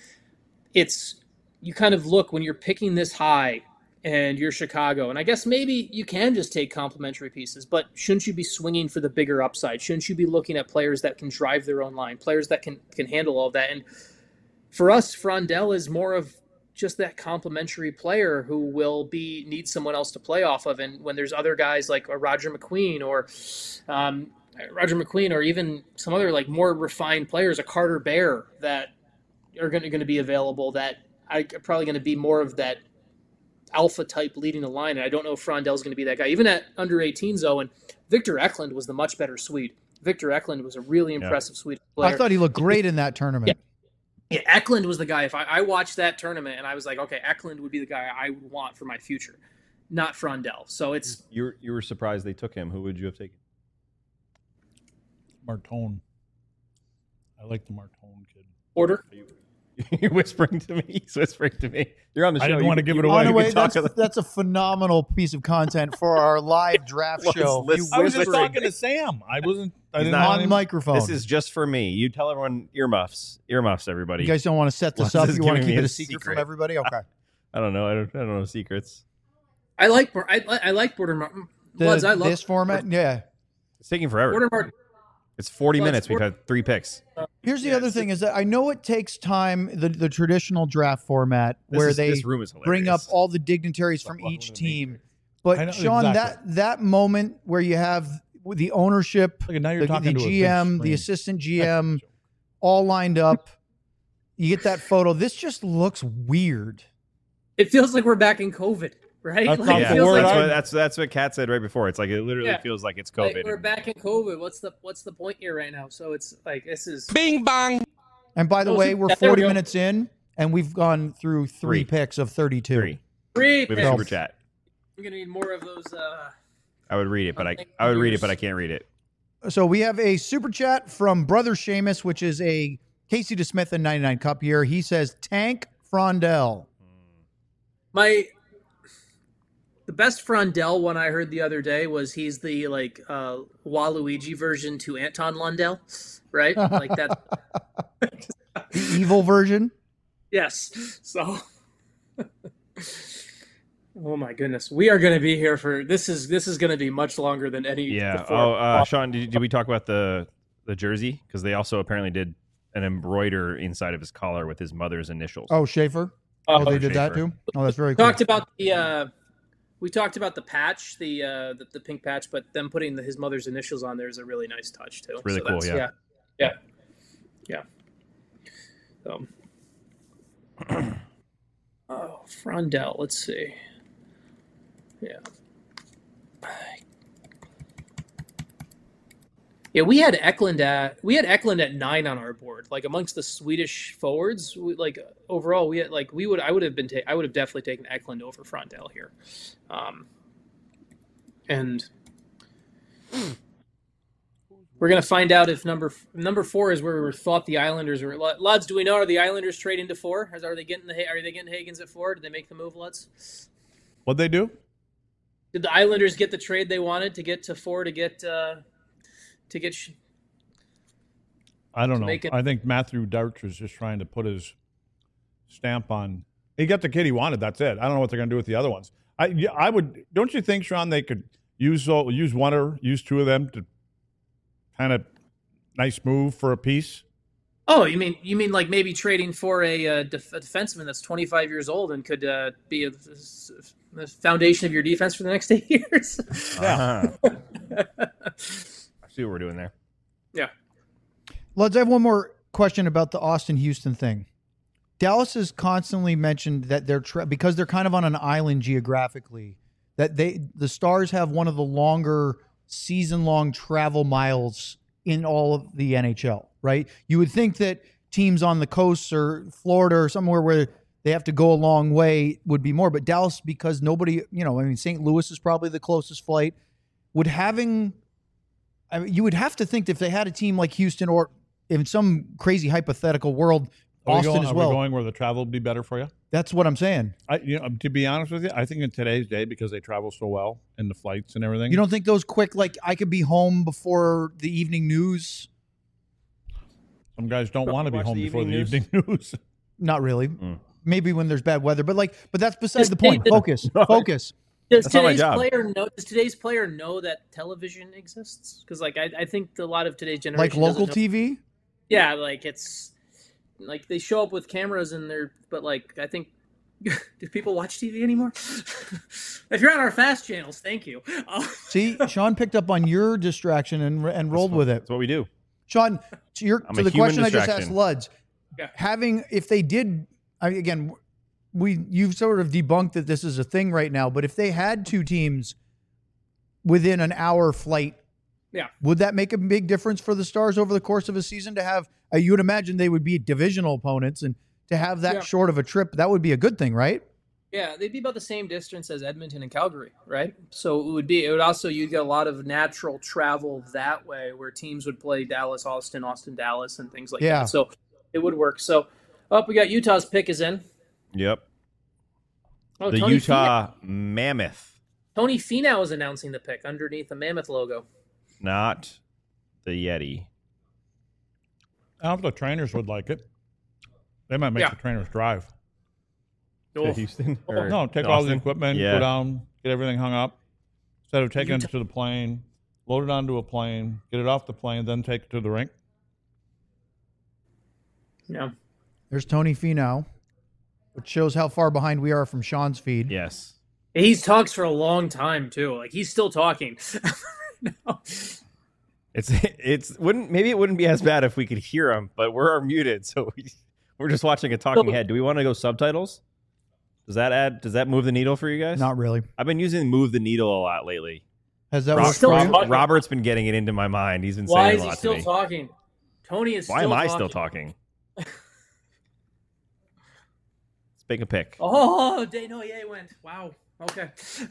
it's you kind of look when you're picking this high and you're Chicago, and I guess maybe you can just take complementary pieces, but shouldn't you be swinging for the bigger upside? Shouldn't you be looking at players that can drive their own line, players that can can handle all of that? And for us, Frundell is more of just that complementary player who will be need someone else to play off of. And when there's other guys like a Roger McQueen or um, Roger McQueen or even some other like more refined players, a Carter Bear that are going to going to be available, that I, are probably going to be more of that alpha type leading the line. And I don't know if Frondell's going to be that guy. Even at under eighteens, though, and Victor Eklund was the much better Swede. Victor Eklund was a really impressive yeah. Swedish player. I thought he looked great in that tournament. Yeah. Yeah, Eklund was the guy. If I, I watched that tournament and I was like, okay, Eklund would be the guy I would want for my future, not Frundell. So it's you were, you were surprised they took him. Who would you have taken? Martone. I like the Martone kid. Order. You're whispering to me. He's whispering to me. You're on the show. I didn't you, want to give you, it away. On the way, talk that's, that's a phenomenal piece of content for our live draft Let's show. listen. You I was just whispering talking to Sam. I wasn't. I He's didn't not want on him- microphone. This is just for me. You tell everyone earmuffs. Earmuffs, everybody. You guys don't want to set this Well, up. this is You want to giving keep me it a a secret, secret. from everybody. Okay. I don't know. I don't, I don't know secrets. I like I, I like Border Martin. Bloods, The- I love this format. Yeah. It's taking forever. Border Martin. It's forty Well, minutes. it's We've four- had three picks. Here's the Yeah, other it's- thing is that I know it takes time, the, the traditional draft format This where is- they this room is bring up hilarious. all the dignitaries from Welcome each to the team. Matrix. But I know- Sean, exactly. that that moment where you have the ownership, Look, now you're the, talking the to a big G M, the screen. assistant G M, all lined up, you get that photo. This just looks weird. It feels like we're back in COVID, right? That's Like, not it Yeah, the feels word like, that's I- what that's that's what Kat said right before. It's like it literally Yeah. feels like it's like, COVID. we're back in COVID. What's the what's the point here right now? So it's like this is Bing bong. And by the Oh, way, so- we're yeah, there we forty go. minutes in, and we've gone through three, Three. picks of thirty-two. Three. Free We have a super chat. We're gonna need more of those. Uh, I would read it, but I I would read it, but I can't read it. So we have a super chat from Brother Seamus, which is a Casey DeSmith and ninety-nine Cup year. He says, Tank Frondell. My the best Frondell one I heard the other day was he's the like uh, Waluigi version to Anton Lundell, right? Like that. The evil version. Yes. So. Oh my goodness, we are going to be here for this. Is this is going to be much longer than any? Yeah. Oh, uh, Sean, did, did we talk about the the jersey? Because they also apparently did an embroider inside of his collar with his mother's initials. Oh, Schaefer. Oh, they did that too. Oh, that's very we cool. Talked about the. Uh, we talked about the patch, the uh, the, the pink patch, but them putting the, his mother's initials on there is a really nice touch too. It's really so cool. Yeah. Yeah. Yeah. Yeah. So. Oh, Frondell. Let's see. Yeah. Yeah, we had Eklund at we had Eklund at nine on our board. Like amongst the Swedish forwards, we, like overall, we had like we would I would have been ta- I would have definitely taken Eklund over Frondell here, um, and we're gonna find out if number number four is where we thought the Islanders were. Luds, do we know are the Islanders trading to four? Are they getting the are they getting Hagens at four? Did they make the move, Luds? What'd they do? Did the Islanders get the trade they wanted to get to four to get uh, to get? Sh- I don't know. it- I think Matthew Darch was just trying to put his stamp on. He got the kid he wanted. That's it. I don't know what they're going to do with the other ones. I, yeah, I would. Don't you think, Sean? They could use uh, use one or use two of them to kind of nice move for a piece. Oh, you mean you mean like maybe trading for a, uh, def- a defenseman that's twenty-five years old and could uh, be a, the foundation of your defense for the next eight years? Yeah. Uh-huh. I see what we're doing there. Yeah. Let's have one more question about the Austin Houston thing. Dallas has constantly mentioned that they're tra- because they're kind of on an island geographically, that they the Stars have one of the longer season-long travel miles in all of the N H L, right? You would think that teams on the coast or Florida or somewhere where they have to go a long way would be more, but Dallas, because nobody, you know, I mean, Saint Louis is probably the closest flight. Would having, I mean, you would have to think that if they had a team like Houston or in some crazy hypothetical world, Are Austin we going, as are well. we going where the travel would be better for you? That's what I'm saying. I, you know, to be honest with you, I think in today's day, because they travel so well in the flights and everything. You don't think those quick, like I could be home before the evening news? Some guys don't want to be watch home the before the evening evening news. Not really. Mm. Maybe when there's bad weather, but like, but that's beside the Just point. take the- Focus, focus. Does That's not my today's job. player know? Does today's player know that television exists? Because like I, I think a lot of today's generation Like local doesn't know- T V. Yeah, like it's like they show up with cameras and they're, but like I think, do people watch T V anymore? If you're on our fast channels, thank you. Uh, See, Sean picked up on your distraction and and rolled with it. That's what we do. Sean, to your I'm to a the human question I just asked distraction. Luds, Yeah. having if they did, I mean, again, we you've sort of debunked that this is a thing right now, but if they had two teams within an hour flight, Yeah. would that make a big difference for the Stars over the course of a season to have? Uh, you would imagine they would be divisional opponents, and to have that Yeah. short of a trip, that would be a good thing, right? Yeah, they'd be about the same distance as Edmonton and Calgary, right? So it would be. It would also you'd get a lot of natural travel that way, where teams would play Dallas, Austin, Austin, Dallas, and things like Yeah. that. So it would work. So, up we got Utah's pick is in. Yep. Oh, the Tony Utah Mammoth, Finau, Tony Finau is announcing the pick underneath the Mammoth logo. not the Yeti. I don't know if the trainers would like it. They might make Yeah. the trainers drive. To Houston? Or No, take all the Austin? equipment, Yeah. go down, get everything hung up. Instead of taking Utah- it to the plane, load it onto a plane, get it off the plane, then take it to the rink. Yeah. There's Tony Finau, which shows how far behind we are from Sean's feed. Yes. He's talks for a long time too. Like he's still talking. No. It's it's wouldn't maybe it wouldn't be as bad if we could hear him, but we're muted, so we, we're just watching a talking So- head. Do we want to go subtitles? Does that add? Does that move the needle for you guys? Not really. I've been using move the needle a lot lately. Has that Rob- worked still for you? talking. Robert's been getting it into my mind. He's been Why saying is a he lot still to me. talking? Tony is Why still am I talking. still talking? It's Pick a pick. Oh, Desnoyers went. Wow. Okay.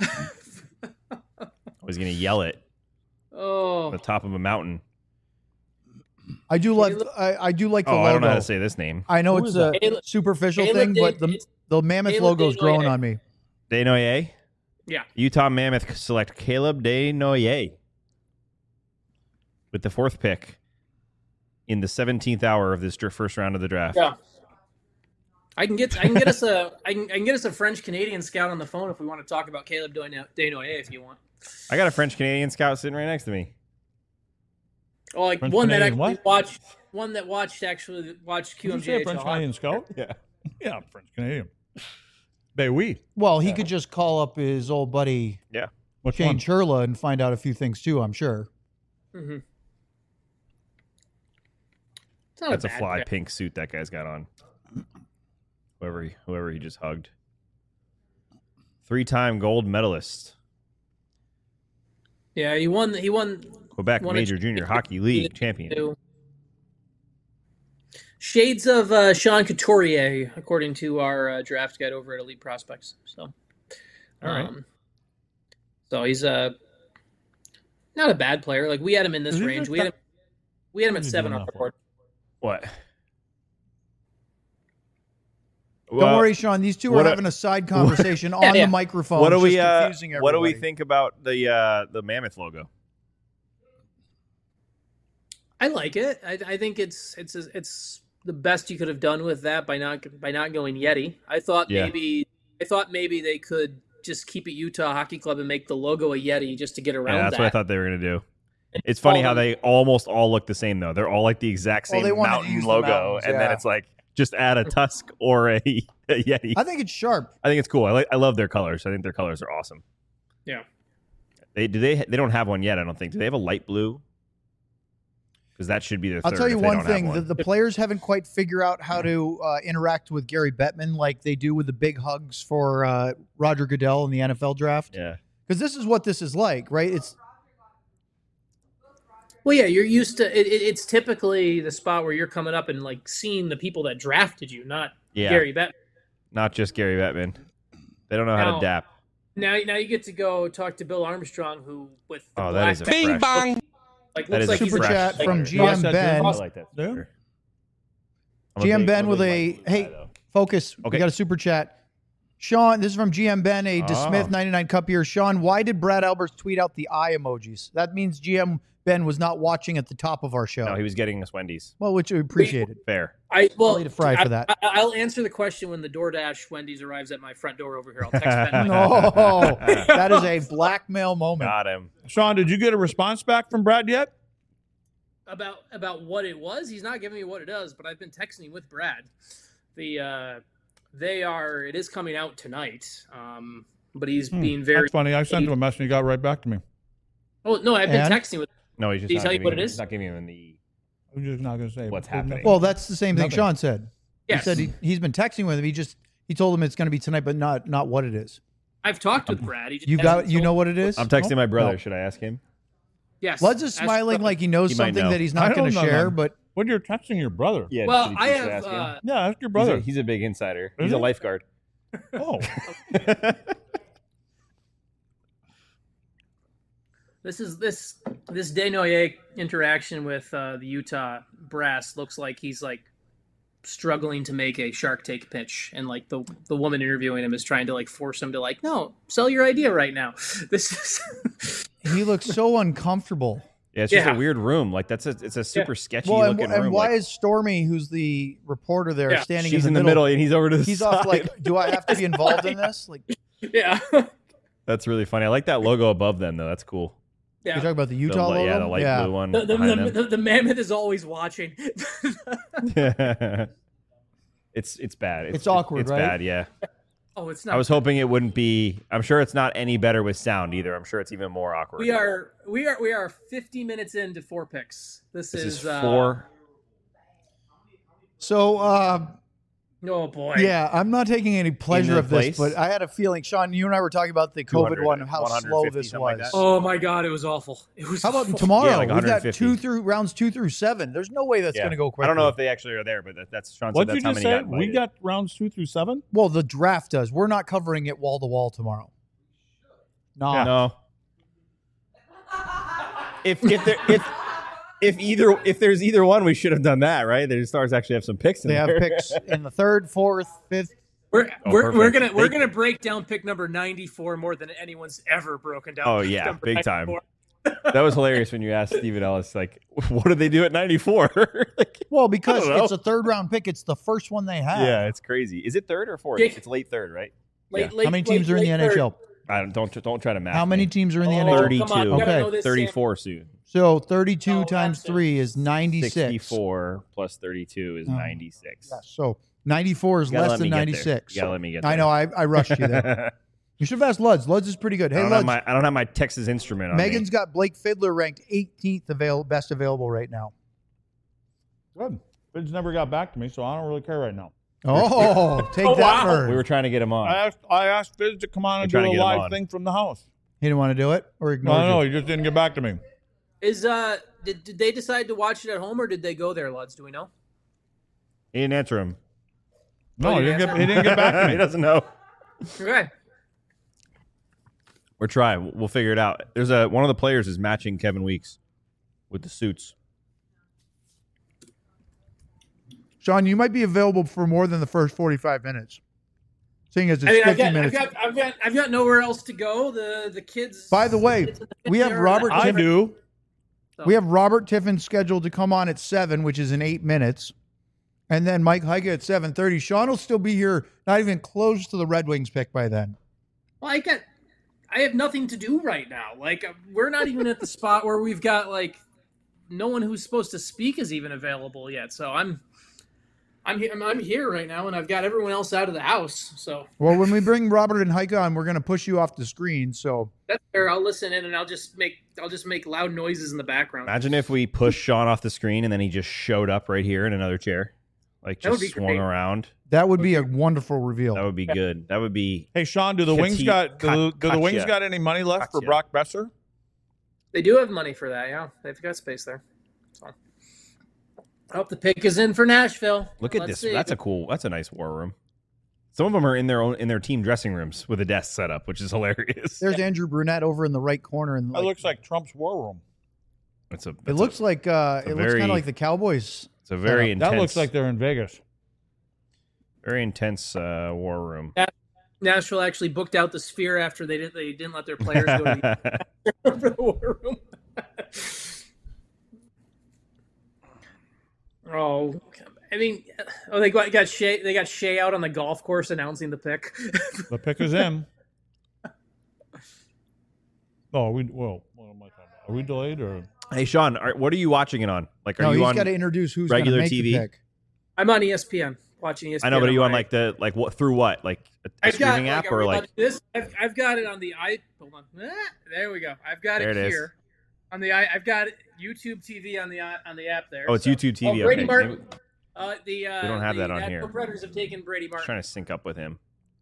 I was going to yell it. Oh. On the top of a mountain. I do like I, I do like the oh, logo. I don't know how to say this name. I know Who it's is a Caleb, superficial Caleb thing, but the the Mammoth Caleb logo is growing Desnoyers. on me. Desnoyers? Yeah. Utah Mammoth select Caleb Desnoyers with the fourth pick in the seventeenth hour of this dr- first round of the draft. Yeah. I can get I can get us a I can, I can get us a French Canadian scout on the phone if we want to talk about Caleb Desnoyers if you want. I got a French Canadian scout sitting right next to me. Oh, like French one that Canadian actually what? watched one that watched actually watched Did you Q M say a J. French Canadian scout? Yeah. Yeah, French Canadian. Ben oui. Well, he could just call up his old buddy Yeah. Which Shane one? Churla and find out a few things too, I'm sure. Mm-hmm. It's not That's a, bad fly pick. pink suit that guy's got on. Whoever he, whoever he just hugged. Three-time gold medalist. Yeah, he won. He won. Quebec won a Major Junior Hockey League champion. Two. Shades of uh, Sean Couturier, according to our uh, draft guide over at Elite Prospects. So, All right. um, so he's a not a bad player. Like we had him in this Is he range. just We had him. We had him What at is he seven doing on that the for? board. What? Don't worry, Sean. These two are what a- having a side conversation on Yeah, yeah. the microphone. What do It's we just uh, confusing What do we everybody. think about the uh, the Mammoth logo? I like it. I, I think it's it's it's the best you could have done with that by not by not going Yeti. I thought Yeah. maybe I thought maybe they could just keep it Utah Hockey Club and make the logo a Yeti just to get around Yeah, that's that. what I thought they were gonna do. It's funny all how the- they almost all look the same though. They're all like the exact Well, same they wanted to mountain use the logo, mountains, and then yeah. it's like just add a tusk or a, a Yeti. I think it's sharp. I think it's cool. I like. I love their colors. I think their colors are awesome. Yeah. They do they they don't have one yet. I don't think. Do they have a light blue? Because that should be their. I'll third tell you if they one don't have thing: one. the, the players haven't quite figured out how to uh, interact with Gary Bettman like they do with the big hugs for uh, Roger Goodell in the N F L draft. Yeah. Because this is what this is like, right? It's Well, yeah, you're used to it, it. It's typically the spot where you're coming up and like seeing the people that drafted you, not Yeah. Gary Bettman. Not just Gary Bettman. They don't know how Now- to dap. Now, now you get to go talk to Bill Armstrong, who with the Oh, that black is a back- fresh- bong. like That looks is like a he's super a- fresh chat like- from color. G M Yes, I do. Ben. I like that. Yeah. sticker. I'm a G M big- Ben I'm with big a light blue hey, guy, though. focus. Okay. We got a super chat. Sean, this is from G M Ben, a Oh. DeSmith ninety-nine Cup here. Sean, why did Brad Alberts tweet out the eye emojis? That means G M Ben was not watching at the top of our show. No, he was getting us Wendy's. well, which we appreciated. Fair. I well, I'll eat a fry for I- that. I, I'll answer the question when the DoorDash Wendy's arrives at my front door over here. I'll text Ben. No, that is a blackmail moment. Got him. Sean, did you get a response back from Brad yet? about about what it was. He's not giving me what it is, but I've been texting with Brad. The uh, they are. It is coming out tonight. Um, but he's Hmm, being very. That's funny. I sent him a message and he got right back to me. Oh no, I've been And? texting with. No, he's just Did he not tell you giving what it him- is? He's not giving him the. I'm just not going to say What's There's happening? Well, that's the same thing Nothing. Sean said. Yes. He said he, he's been texting with him. He just he told him it's going to be tonight, but not not what it is. I've talked with Brad. He just You got hasn't you told- know what it is? I'm texting my brother. No. Should I ask him? Yes. Lutz is Ask smiling Brad. like he knows He might something know. that he's I not going don't to know share, that. but When you're texting your brother. Yeah. Well, should- I should have. ask him? Uh, Yeah, ask your He's brother. a, he's a big insider. Is He's a he? lifeguard. oh. This is this this Desnoyers interaction with uh, the Utah Brass looks like he's like struggling to make a Shark Tank pitch, and like the the woman interviewing him is trying to like force him to like, no, sell your idea right now. This is he looks so uncomfortable. Yeah, it's just Yeah. a weird room. Like that's a it's a super sketchy Well, and, looking and room. why like, is Stormy, who's the reporter there, Yeah, standing she's in the, middle and he's over to the He's side. off like, do I have to be involved in this? Like, you're yeah, That's really funny. I like that logo above them though. That's cool. yeah. talking about the The Utah li- logo? yeah, the light Yeah. blue one. The, the, behind the, the, the mammoth is always watching. them. it's it's bad. It's, It's awkward, It's right? bad. Yeah. Oh, it's not. I was hoping it wouldn't be. I'm sure it's not any better with sound either. I'm sure it's even more awkward. We are we are we are fifty minutes into four picks. This, This is, is uh, four. So, uh, Oh boy. Yeah, I'm not taking any pleasure of place? this, but I had a feeling, Sean, you and I were talking about the COVID one, how slow this like was. Oh my God, it was awful. It was. How about awful. tomorrow? Yeah, like We've got two through rounds two through seven. There's no way that's Yeah. going to go quick. I don't know if they actually are there, but that, that's Sean What said did that's you how just many say? got We invited. got rounds two through seven. Well, the draft does. We're not covering it wall to wall tomorrow. No. Yeah. No. If if there if if either if there's either one, we should have done that, right? The Stars actually have some picks in They have there. picks in the third, fourth, fifth. We're Oh, we're, we're perfect. gonna we're They- gonna break down pick number ninety-four more than anyone's ever broken down. Oh, pick yeah, number big time. ninety-four. That was hilarious when you asked Steven Ellis, like, what did they do at ninety-four? Like, Well, because I don't know. it's a third round pick, it's the first one they have. yeah, it's crazy. Is it third or fourth? Jake- It's late third, right? Late, Yeah. late, How many late, teams are in the late N H L? third. I don't don't don't try to math. How many me. teams are in the Oh, N H L? thirty-two. come on, you gotta Okay. know this, thirty-four soon. So thirty-two Oh, times that's it. three is ninety-six. sixty-four plus thirty-two is Oh. ninety-six. Yeah, so ninety-four is You gotta less let than me get there. ninety-six. You gotta let me get there. I know. I, I rushed you there. You should have asked Luds. Luds is pretty good. I Hey, don't have Luds. my I don't have my Texas Instrument on me. Megan's got Blake Fiddler ranked eighteenth avail- best available right now. Good. Fidge never got back to me, so I don't really care right now. Oh, take Oh, that, wow. bird. We were trying to get him on. I asked I asked Fidge to come on and We're do trying a to get him live on. thing from the house. He didn't want to do it or No, ignore no, you. he just didn't get back to me. Is uh did, did they decide to watch it at home or did they go there, Luds? Do we know? He didn't answer him. No, Oh, he you didn't get answered? he didn't get back to he me. doesn't know. Okay. We're trying. We'll figure it out. There's a one of the players is matching Kevin Weeks with the suits. Sean, you might be available for more than the first forty-five minutes. Seeing as it's I mean, I've fifty got, I've minutes. got, I've got, I've got nowhere else to go. The the kids. By the way, kids in the we have there, Robert I Tiffin- do. so- We have Robert Tiffin scheduled to come on at seven, which is in eight minutes. And then Mike Heike at seven thirty. Sean will still be here, not even close to the Red Wings pick by then. Well, I got, I have nothing to do right now. Like uh, we're not even at the spot where we've got like no one who's supposed to speak is even available yet. So I'm, I'm here. I'm, I'm here right now, and I've got everyone else out of the house. So Well, when we bring Robert and Heike on, we're going to push you off the screen. So that's fair. I'll listen in, and I'll just make, I'll just make loud noises in the background. Imagine if we pushed Sean off the screen and then he just showed up right here in another chair, like That would just be swung great. around. that would be a wonderful reveal. That would be good. That would be. Hey Sean, do the Kati- Wings got do, Ka- do the Wings Katya. got any money left for Katya. Brock Besser? They do have money for that. Yeah, they've got space there. So, I hope the pick is in for Nashville. Look at Let's this. see. That's a cool. That's a nice war room. Some of them are in their own in their team dressing rooms with a desk set up, which is hilarious. There's Andrew Brunette over in the right corner. And That looks like Trump's war room. It's a. it it's looks a, like uh, a it looks very- kind of like the Cowboys. It's a very intense. That looks like they're in Vegas. very intense uh, war room. Nashville actually booked out the Sphere after they didn't they didn't let their players go to the, for the war room. oh, I mean, oh they got got Shea they got Shea out on the golf course announcing the pick. The pick is in. Oh, we well, what am I talking about? Are we delayed or? Hey Sean, are, what are you watching it on? Like, are No, you he's on got to introduce who's going to regular make T V? the pick. I'm on E S P N watching E S P N. I know, but are you on my- like the like what through what like a, a I've got streaming like, app are or we allowed like to do this? I've, I've got it on the i. Hold on, Ah, there we go. I've got There it, it is. here on the i. I've got YouTube T V on the i- on the app there. oh it's so- YouTube T V. Oh, Brady okay. Martin. Maybe- Uh, the uh, We don't have the that on Nashville here. Predators have taken Brady I'm Martin. trying to sync up with him.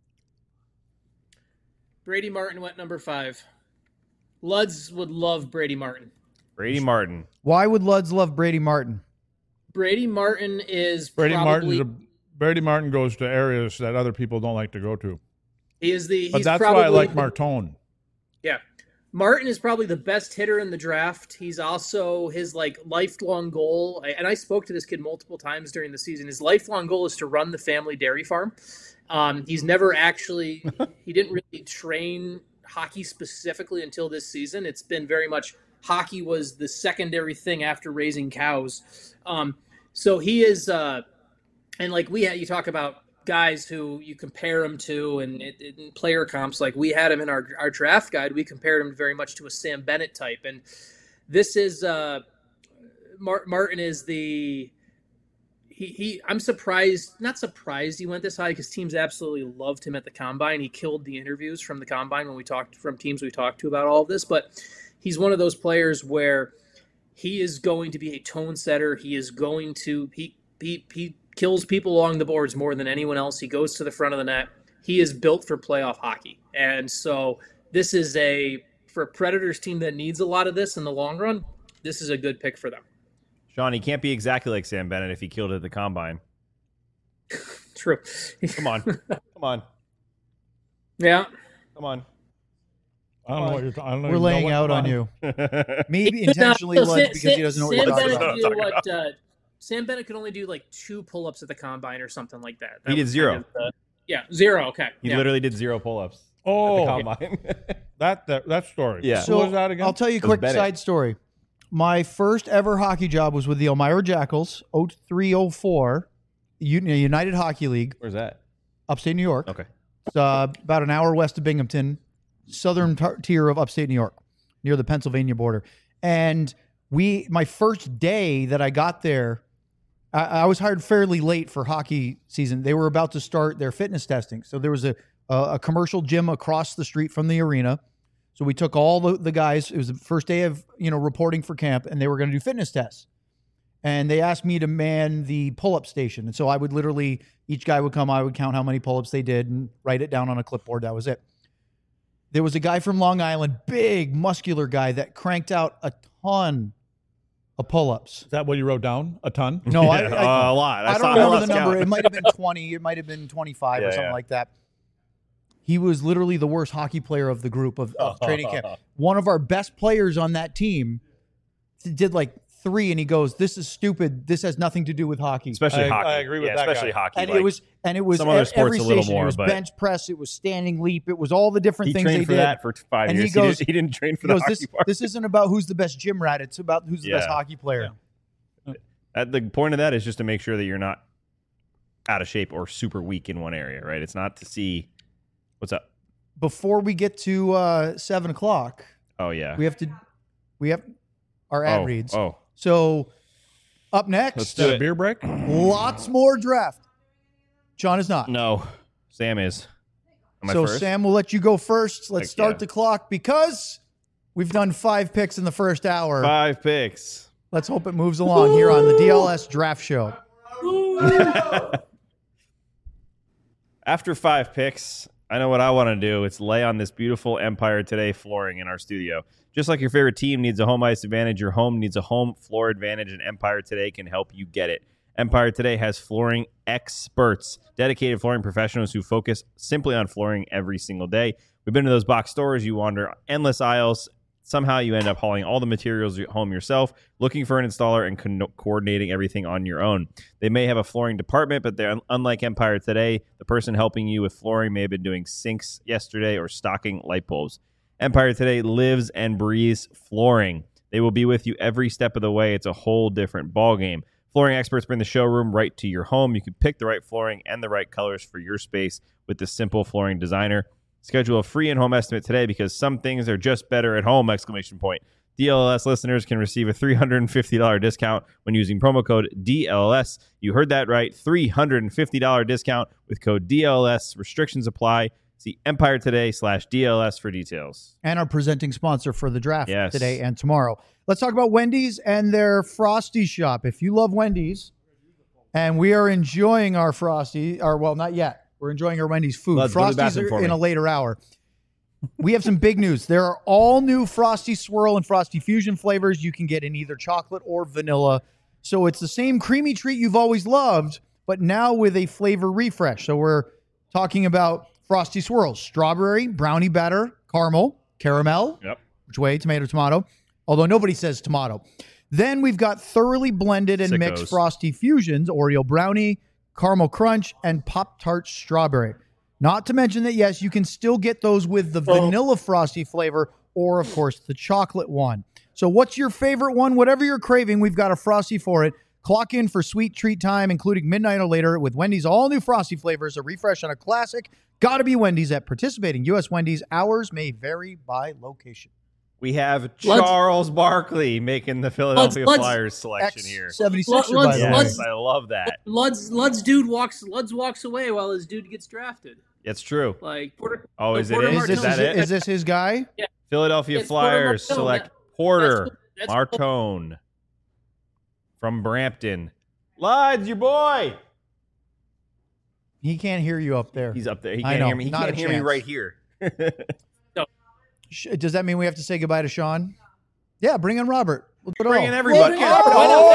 Brady Martin went number five. Luds would love Brady Martin. Brady Martin. Why would Luds love Brady Martin? Brady Martin is Brady probably Martin. Brady Martin goes to areas that other people don't like to go to. he is the. But he's that's probably, why I like Martone. Yeah, Martin is probably the best hitter in the draft. He's also his like lifelong goal, and I spoke to this kid multiple times during the season. His lifelong goal is to run the family dairy farm. Um, he's never actually, he didn't really train hockey specifically until this season. It's been very much hockey was the secondary thing after raising cows. Um, so he is, uh, and like we had, you talk about guys who you compare him to and in player comps, like we had him in our, our draft guide, we compared him very much to a Sam Bennett type. And this is, uh, Martin is the, He, he, I'm surprised, not surprised he went this high because teams absolutely loved him at the combine. He killed the interviews from the combine when we talked from teams we talked to about all of this. But he's one of those players where he is going to be a tone setter. He is going to he he he kills people along the boards more than anyone else. He goes to the front of the net. He is built for playoff hockey. And so this is a, for a Predators team that needs a lot of this in the long run, this is a good pick for them. Sean, he can't be exactly like Sam Bennett if he killed it at the combine. True. Come on. Come on. Yeah. Come on. I don't know what you're talking about. We're laying out on you. Maybe intentionally, no, Lud, Sam, because he doesn't know what Sam you're talking Bennett about. do what, uh, Sam Bennett could only do like two pull-ups at the combine or something like that. that he did zero. Kind of the, yeah, zero. Okay. He yeah. literally did zero pull-ups Oh, at the combine. that, that that story. Yeah. So, what was that again? I'll tell you a quick side story. My first ever hockey job was with the Elmira Jackals, oh three oh four, United Hockey League. Where's that? Upstate New York. Okay. It's uh, about an hour west of Binghamton, southern t- tier of upstate New York, near the Pennsylvania border. And we, my first day that I got there, I, I was hired fairly late for hockey season. They were about to start their fitness testing. So there was a, a, a commercial gym across the street from the arena. So we took all the, the guys. It was the first day of, you know, reporting for camp, and they were going to do fitness tests. And they asked me to man the pull-up station. And so I would literally, each guy would come, I would count how many pull-ups they did and write it down on a clipboard. That was it. There was a guy from Long Island, big, muscular guy that cranked out a ton of pull-ups. Is that what you wrote down? A ton? No, I, Yeah, I, uh, a lot. I, I saw don't I remember lost the number. count. It might have been twenty. It might have been twenty-five Yeah, or something yeah. like that. He was literally the worst hockey player of the group of, of training camp. One of our best players on that team did like three, and he goes, "This is stupid. This has nothing to do with hockey." Especially I- hockey. I agree with yeah, that especially guy. hockey. And like, it was, and it was some other at sports every a little station. more, It was but- bench press. It was standing leap. It was all the different he things trained they for did. that for five And he years. goes- he, didn't, he didn't train for He the goes, hockey this, part. this isn't about who's the best gym rat. It's about who's the Yeah. best hockey player. At the point of that is just to make sure that you're not out of shape or super weak in one area, right? It's not to see what's up. Before we get to uh, seven o'clock, Oh yeah. we have to, we have our ad oh, reads. Oh, So up next, Let's Is that do a it. beer break? lots more draft. John is not. no. Sam is. Am I So first? Sam will let you go first. Let's Heck start yeah. the clock because we've done five picks in the first hour. Five picks. Let's hope it moves along here on the D L S Draft Show. After five picks, I know what I want to do. It's lay on this beautiful Empire Today flooring in our studio. Just like your favorite team needs a home ice advantage, your home needs a home floor advantage, and Empire Today can help you get it. Empire Today has flooring experts, dedicated flooring professionals who focus simply on flooring every single day. We've been to those box stores. You wander endless aisles. Somehow you end up hauling all the materials home yourself, looking for an installer and co- coordinating everything on your own. They may have a flooring department, but they're unlike Empire Today. The person helping you with flooring may have been doing sinks yesterday or stocking light bulbs. Empire Today lives and breathes flooring. They will be with you every step of the way. It's a whole different ballgame. Flooring experts bring the showroom right to your home. You can pick the right flooring and the right colors for your space with the simple flooring designer. Schedule a free in-home estimate today because some things are just better at home, exclamation point. D L S listeners can receive a three hundred fifty dollars discount when using promo code D L S. You heard that right, three hundred fifty dollars discount with code D L S. Restrictions apply. See Empire Today slash D L S for details. And our presenting sponsor for the draft Yes. today and tomorrow. Let's talk about Wendy's and their Frosty shop. If you love Wendy's, and we are enjoying our Frosty, or well, not yet. We're enjoying our Wendy's food. Let's go to the Frosties bathroom are for in me. a later hour. We have some big news. There are all new Frosty Swirl and Frosty Fusion flavors you can get in either chocolate or vanilla. So it's the same creamy treat you've always loved, but now with a flavor refresh. So we're talking about Frosty Swirls, strawberry, brownie batter, caramel, caramel, Yep. which way, tomato, tomato, although nobody says tomato. Then we've got thoroughly blended and Sickos. mixed Frosty Fusions, Oreo brownie, caramel crunch, and Pop-Tart strawberry. Not to mention that, yes, you can still get those with the vanilla Frosty flavor or, of course, the chocolate one. So what's your favorite one? Whatever you're craving, we've got a Frosty for it. Clock in for sweet treat time, including midnight or later, with Wendy's all-new Frosty flavors, a refresh on a classic. Gotta be Wendy's at participating U S Wendy's. Hours may vary by location. We have Let's- Charles Barkley making the Philadelphia let's- Flyers selection here. X seventy-six, Let's- by the way. let's- Yes, I love that. Lud's Lud's dude walks Lud's walks away while his dude gets drafted. It's true. Like Porter, Oh, like is it Porter is? Is Martone. this, Is that is, it? is this his guy? Philadelphia It's Porter Flyers Martone. select That- Porter that's cool. Martone from Brampton. Luds, your boy. He can't hear you up there. He's up there. He I can't know, hear me. He not can't a hear me chance. right here. Does that mean we have to say goodbye to Sean? Yeah, bring in Robert. We'll do it Bring all. in everybody. Look at,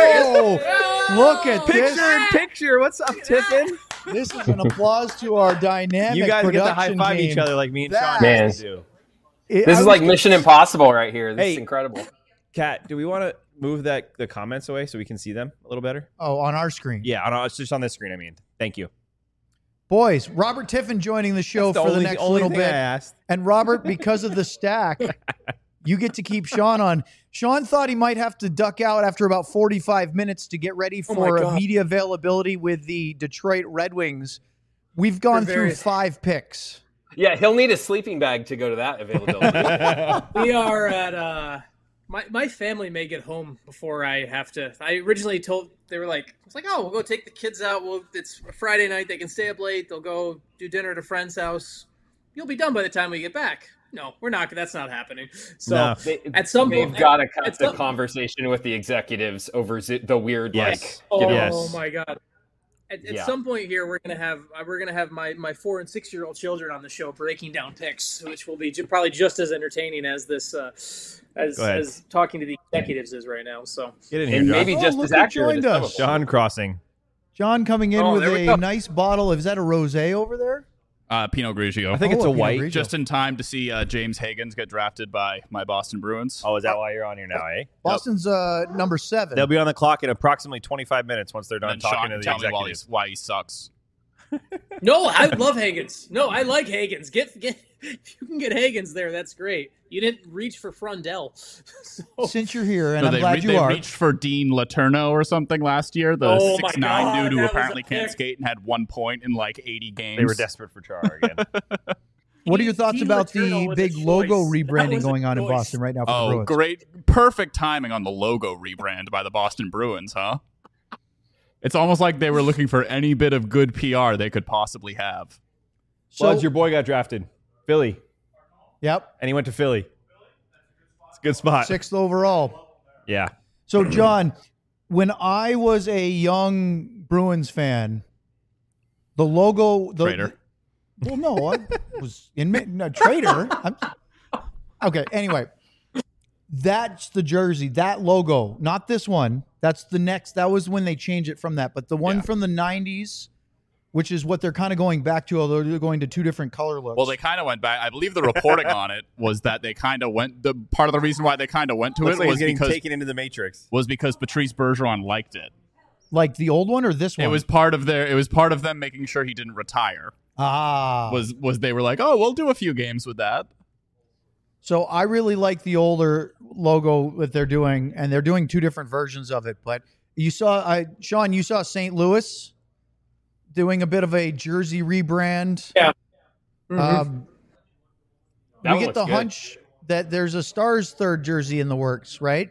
oh, look at Picture this. in picture. What's up, Tiffin? This is an applause to our dynamic You guys get to production high five team. each other like me and That- Sean Man. used to do. It- This I is was like gonna- Mission Impossible right here. This Hey. is incredible. Kat, do we want to move that the comments away so we can see them a little better? Oh, on our screen. Yeah, on, it's just on this screen. I mean, thank you. Boys, Robert Tiffin joining the show That's for the only- next only little thing bit. I asked. And Robert, because of the stack, you get to keep Sean on. Sean thought he might have to duck out after about forty-five minutes to get ready Oh my for God. media availability with the Detroit Red Wings. We've gone For through various- five picks. Yeah, he'll need a sleeping bag to go to that availability. We are at uh my my family may get home before I have to. I originally told they were like, I was like, oh, we'll go take the kids out. Well, it's a Friday night. They can stay up late. They'll go do dinner at a friend's house. You'll be done by the time we get back. No, we're not. That's not happening. So No. They, at some they've point, got to cut at the some- conversation with the executives over zi- the weird, Yes. like, Oh you know, Yes. my god! At, at Yeah. some point here, we're gonna have uh, we're gonna have my, my four and six year old children on the show breaking down picks, which will be ju- probably just as entertaining as this uh, as Go ahead. as talking to the executives is right now. So Get in here, and John. maybe Oh, just look as who accurate as joined some us. of them. John Crossing. John coming in Oh, with there we a go. nice bottle. Is that a rosé over there? Uh, Pinot Grigio. I think Oh, it's a a Pinot white. Grigio. Just in time to see uh, James Higgins get drafted by my Boston Bruins. Oh, is that why you're on here now, eh? Boston's uh, number seven. They'll be on the clock in approximately twenty-five minutes once they're and done then talking Sean to can the tell me why, executives. he's, why he sucks. no, I love Higgins. No, I like Higgins. Get get if you can get Higgins there, that's great. You didn't reach for Frundell. so, Since you're here, and No, I'm they, glad re- you they are. reached for Dean Letourneau or something last year, the Oh my six nine God, dude who that was apparently a can't pick. skate and had one point in like eighty games. They were desperate for Char again. What are your thoughts Dean about Letourneau the was a big choice. logo That rebranding was a going on in choice. Boston right now for the Oh, Bruins? great. Perfect timing on the logo rebrand by the Boston Bruins, huh? It's almost like they were looking for any bit of good P R they could possibly have. So, Buds, your boy got drafted. Philly. yep, And he went to Philly. It's a good spot. sixth overall. Yeah. So, John, when I was a young Bruins fan, the logo, the, Traitor. well, no, I was in no, traitor. I'm, okay, anyway, that's the jersey, that logo, not this one. That's the next. That was when they changed it from that, but the one Yeah. from the nineties, which is what they're kind of going back to, although they're going to two different color looks. Well, they kind of went back. I believe the reporting on it was that they kind of went. The part of the reason why they kind of went to Looks it like was he's getting because taken into the Matrix. was because Patrice Bergeron liked it. like the old one or this one? It was part of their. It was part of them making sure he didn't retire. ah. Was was they were like, oh, we'll do a few games with that. So I really like the older logo that they're doing, and they're doing two different versions of it. But you saw, I Sean, you saw Saint Louis doing a bit of a jersey rebrand. Yeah. Mhm. Um, That we one get looks the good. hunch that there's a Stars third jersey in the works, right?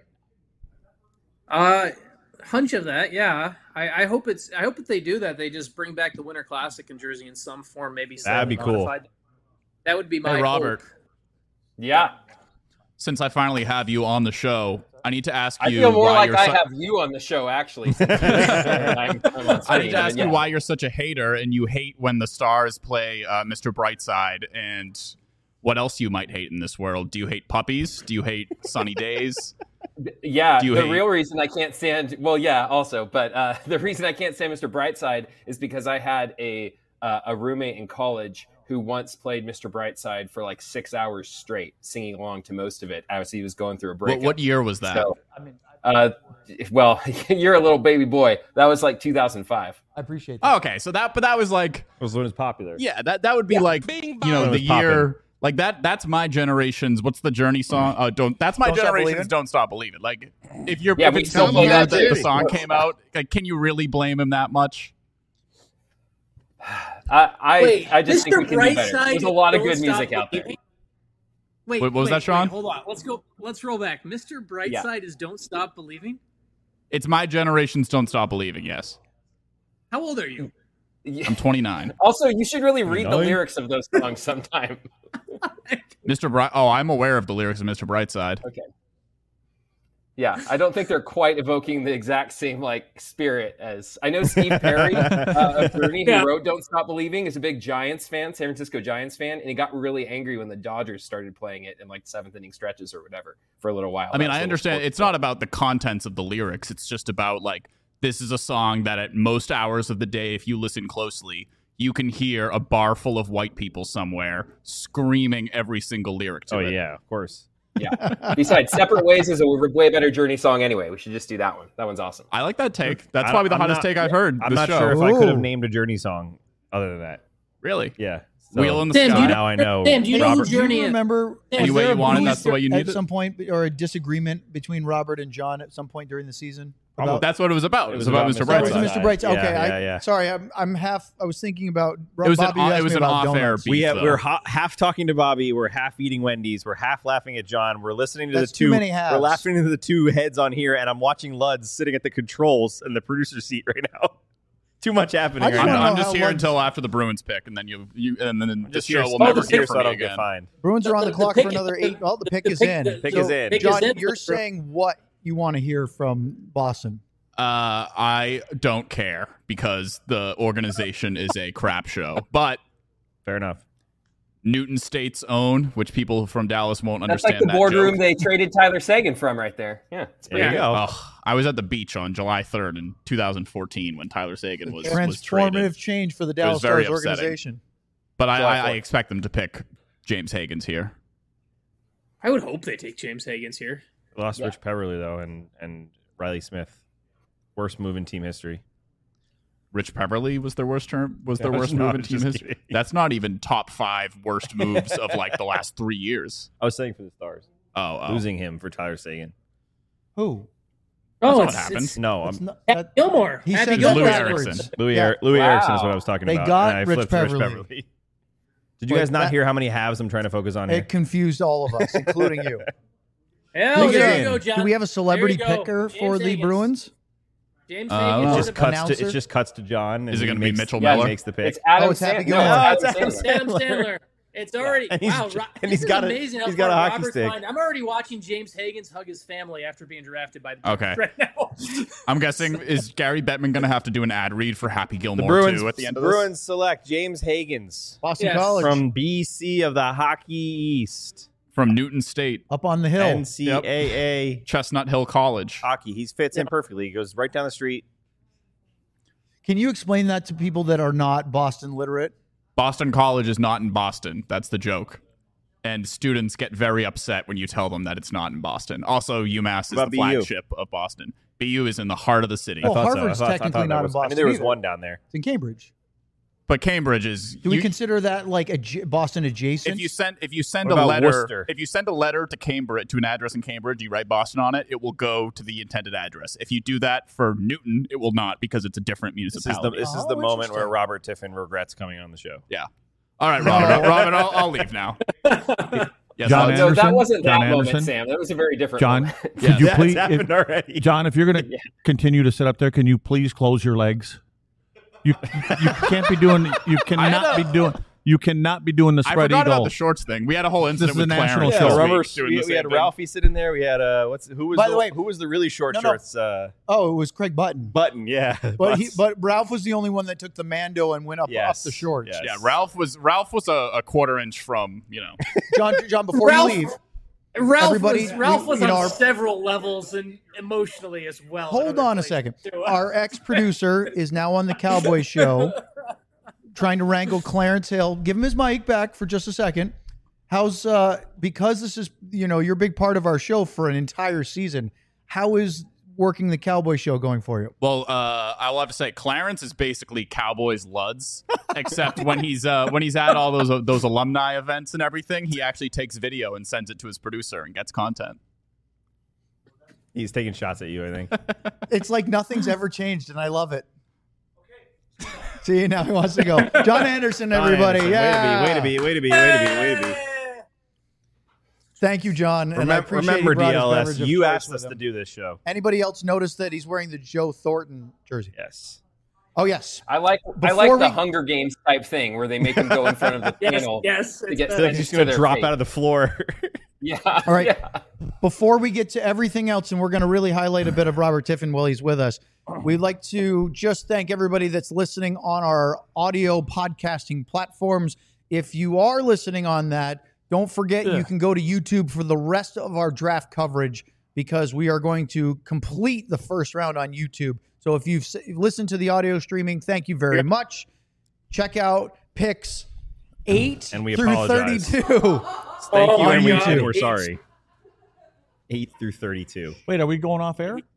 Uh, hunch of that, yeah. I, I hope it's. I hope if they do that, they just bring back the Winter Classic in jersey in some form. Maybe That'd be slightly cool. modified. That would be my Hey, Robert. hope. Yeah. Since I finally have you on the show, I need to ask I you feel more why like you're I su- have you on the show, actually. since I'm, I'm on I need to ask yeah. you why you're such a hater and you hate when the Stars play uh, Mister Brightside, and what else you might hate in this world. Do you hate puppies? Do you hate sunny days? Yeah, Do you the hate- real reason I can't stand well, yeah, also, but uh, the reason I can't stand Mister Brightside is because I had a uh, a roommate in college who once played Mister Brightside for like six hours straight, singing along to most of it as he was going through a What, breakup. what year was that? So, uh, well, you're a little baby boy. That was like two thousand five. I appreciate that. Oh, okay, so that, but that was like, It was when it was popular. yeah, that that would be like, you know, When it the was poppin'. year. Like that. That's my generation's. What's the Journey song? Uh, don't. That's my Don't Stop generation's. Believin'? Don't stop believing. Like, if you're, Yeah, if we it's still the play year that that too. the song came out, like, can you really blame him that much? I I, Wait, I just Mister think we can do better. Brightside, There's a lot of Don't good Stop music out there. Believing? Wait, Wait, what was wait, that, Sean? wait, hold on. Let's go. Let's roll back. Mister Brightside is "Don't Stop Believing." It's my generation's. Don't stop believing. Yes, How old are you? Yeah. I'm twenty-nine. Also, you should really read the Nine? lyrics of those songs sometime. Mister Bright. Oh, I'm aware of the lyrics of Mister Brightside. Yeah, Yeah, I don't think they're quite evoking the exact same like spirit as I know Steve Perry uh, of Bernie, who Yeah. wrote "Don't Stop Believing," is a big Giants fan, San Francisco Giants fan, and he got really angry when the Dodgers started playing it in like seventh inning stretches or whatever for a little while. I mean, That was I a little understand sports it's talk. not about the contents of the lyrics. It's just about like this is a song that at most hours of the day, if you listen closely, you can hear a bar full of white people somewhere screaming every single lyric to Oh it. yeah, of course. Yeah. Besides, "Separate Ways" is a way better Journey song anyway. We should just do that one. That one's awesome. I like that take. That's I- probably the I'm hottest not- take I've heard. I'm this not show. sure if I could have Ooh. named a Journey song other than that. Really. Yeah. So Wheel in the Sam, do Sky. you now I know. Sam, do you know who Robert- Do you Journey is? remember? Any was way there you a want it, beef that's the way you need at it? some point, or a disagreement between Robert and John at some point during the season? Oh, About- that's what it was about. It, It was, was about, about Mister Mister That was Brightside. Mister Brightside. Yeah, Okay, yeah, I, yeah. sorry, I'm, I'm half. I was thinking about. It was an Bobby, off- you asked it was me an about off-air donuts. beef. We have, though. we're ha- half talking to Bobby. We're half eating Wendy's. We're half laughing at John. We're listening to That's the too two. many halves. We're laughing to the two heads on here, and I'm watching Luds sitting at the controls in the producer's seat right now. Too much happening I right just I'm, wanna now. know I'm just how here Luds- until after the Bruins pick, and then you, you and then the Just show here, will oh, never just here hear so from I me don't get again. fined. Bruins are on The- the the clock pick- for another eight. Oh, the pick the is pick- in. the- Pick So, is in. Pick John, is in. you're saying what you want to hear from Boston? Uh, I don't care because the organization is a crap show. But Fair enough. Newton State's own, which people from Dallas won't That's like understand the that boardroom joke. they traded Tyler Sagan from right there. Yeah, it's pretty There you good. go. Ugh, I was at the beach on July third in two thousand fourteen when Tyler Sagan was, was Transformative traded. change for the Dallas very Stars upsetting. organization. But I, July I, I fourth. expect them to pick James Higgins here. I would hope they take James Higgins here. Lost Yeah. Rich Peverly though, and and Riley Smith. Worst move in team history. Rich Peverly was their worst term was their No, worst no, move I'm in team just history. kidding. That's not even top five worst moves of like the last three years. I was saying for the Stars, Oh, oh. losing him for Tyler Sagan. Who? That's Oh, what it's, happened. it's No, It's I'm not- Happy that- Gilmore. He Happy said Gilmore. Louis backwards. Erickson. Louis, Yeah. er- Louis Wow. Erickson is what I was talking They about. got and I Rich flipped to Rich Peverly. Peverly. Did you Wait, guys not that- hear how many halves I'm trying to focus on here? It confused all of us, including you. Yeah, Pick there it you in. go, John. Do we have a celebrity There you go. picker James for the Higgins. Bruins? James Uh, Higgins. it well, just cuts announcer? to it just cuts to John. Is it going gonna to be Mitchell Yeah, Miller? Makes the pick. It's Adam Oh, it's Happy Sandler. Gilmore. No, No, it's Adam Adam Sandler. Adam Sandler. It's already And he's- wow. Ro- and this he's is got a- amazing how he's got a far hockey Robert's stick. behind. I'm already watching James Higgins hug his family after being drafted by the Okay. Bruins right now. I'm guessing is Gary Bettman going to have to do an ad read for Happy The Gilmore Bruins too at the end of this? Bruins select James Higgins Boston Yes. College. from B C of the Hockey East, From Newton State, up on the hill. N C A A Chestnut Hill College. hockey. He fits in perfectly. He goes right down the street. Can you explain that to people that are not Boston literate? Boston College is not in Boston. That's the joke. And students get very upset when you tell them that it's not in Boston. Also, UMass is What about the B U? flagship of Boston. B U is in the heart of the city. I Well, thought so. I Harvard's thought- I technically thought not that in was- I mean, Boston there was either. one down there. It's in Cambridge. But Cambridge is. Do we you- consider that like a J- Boston adjacent? if you send if you send What a about letter Worcester? if you send a letter to Cambridge to an address in Cambridge, you write Boston on it, it will go to the intended address. If you do that for Newton, it will not because it's a different This is the municipality. this is Oh, the moment where interesting. Robert Tiffin regrets coming on the show. All right, Robin. Robin, I'll, I'll leave now. Yes, John I'll- No, that Anderson? wasn't John that moment, Anderson? Sam. That was a very different John, moment. could Yeah. you That's please, happened if, already. John, if you're going to Yeah. continue to sit up there, can you please close your legs? You you can't be doing. You cannot a- be doing. You cannot be doing the I spread forgot about eagle. the shorts thing. We had a whole incident is a with national Clarence show. this Yeah, week remember doing we, the we had same thing. Ralphie sitting there. We had uh, what's who was By the, the way- who was the really short No, no. shorts? Uh, oh, it was Craig Button. Button, yeah. But he, Butts. but Ralph was the only one that took the Mando and went up Yes, off the shorts. yes. Yeah, Ralph was Ralph was a, a quarter inch from you know. John, John, before Ralph- you leave, Ralph Everybody- was, Ralph was you know, on our- several levels and emotionally as well. in hold other on a places, second. too. Our ex-producer is now on the Cowboy Show, trying to wrangle Clarence Hill. Give him his mic back for just a second. How's uh because this is you know you're a big part of our show for an entire season. How is working the Cowboy Show going for you? Well, uh, I will have to say Clarence is basically Cowboys Luds, except when he's uh, when he's at all those those alumni events and everything, he actually takes video and sends it to his producer and gets content. He's taking shots at you. I think. It's like nothing's ever changed, and I love it. See, now he wants to go. John Anderson, everybody. John Anderson, Yeah. Way to be, way to be, way to be, way to be, way to be. Thank you, John. And I Remember, appreciate remember he brought his D L S, beverage of you choice asked with us him. to do this show. Anybody else notice that he's wearing the Joe Thornton jersey? Yes. Oh, yes. I like I Before like the we- Hunger Games type thing where they make him go in front of the Yes, panel yes. to it's get the- So he's sentenced just to going to their drop fate. out of the floor. Yeah. All right. Yeah. before we get to everything else, and we're going to really highlight a bit of Robert Tiffin while he's with us, we'd like to just thank everybody that's listening on our audio podcasting platforms. If you are listening on that, don't forget yeah. you can go to YouTube for the rest of our draft coverage because we are going to complete the first round on YouTube. So if you've listened to the audio streaming, thank you very yep. much. Check out picks eight and we through apologize. thirty-two. Thank oh, you, and we, we're sorry. eight through thirty-two. Wait, are we going off air?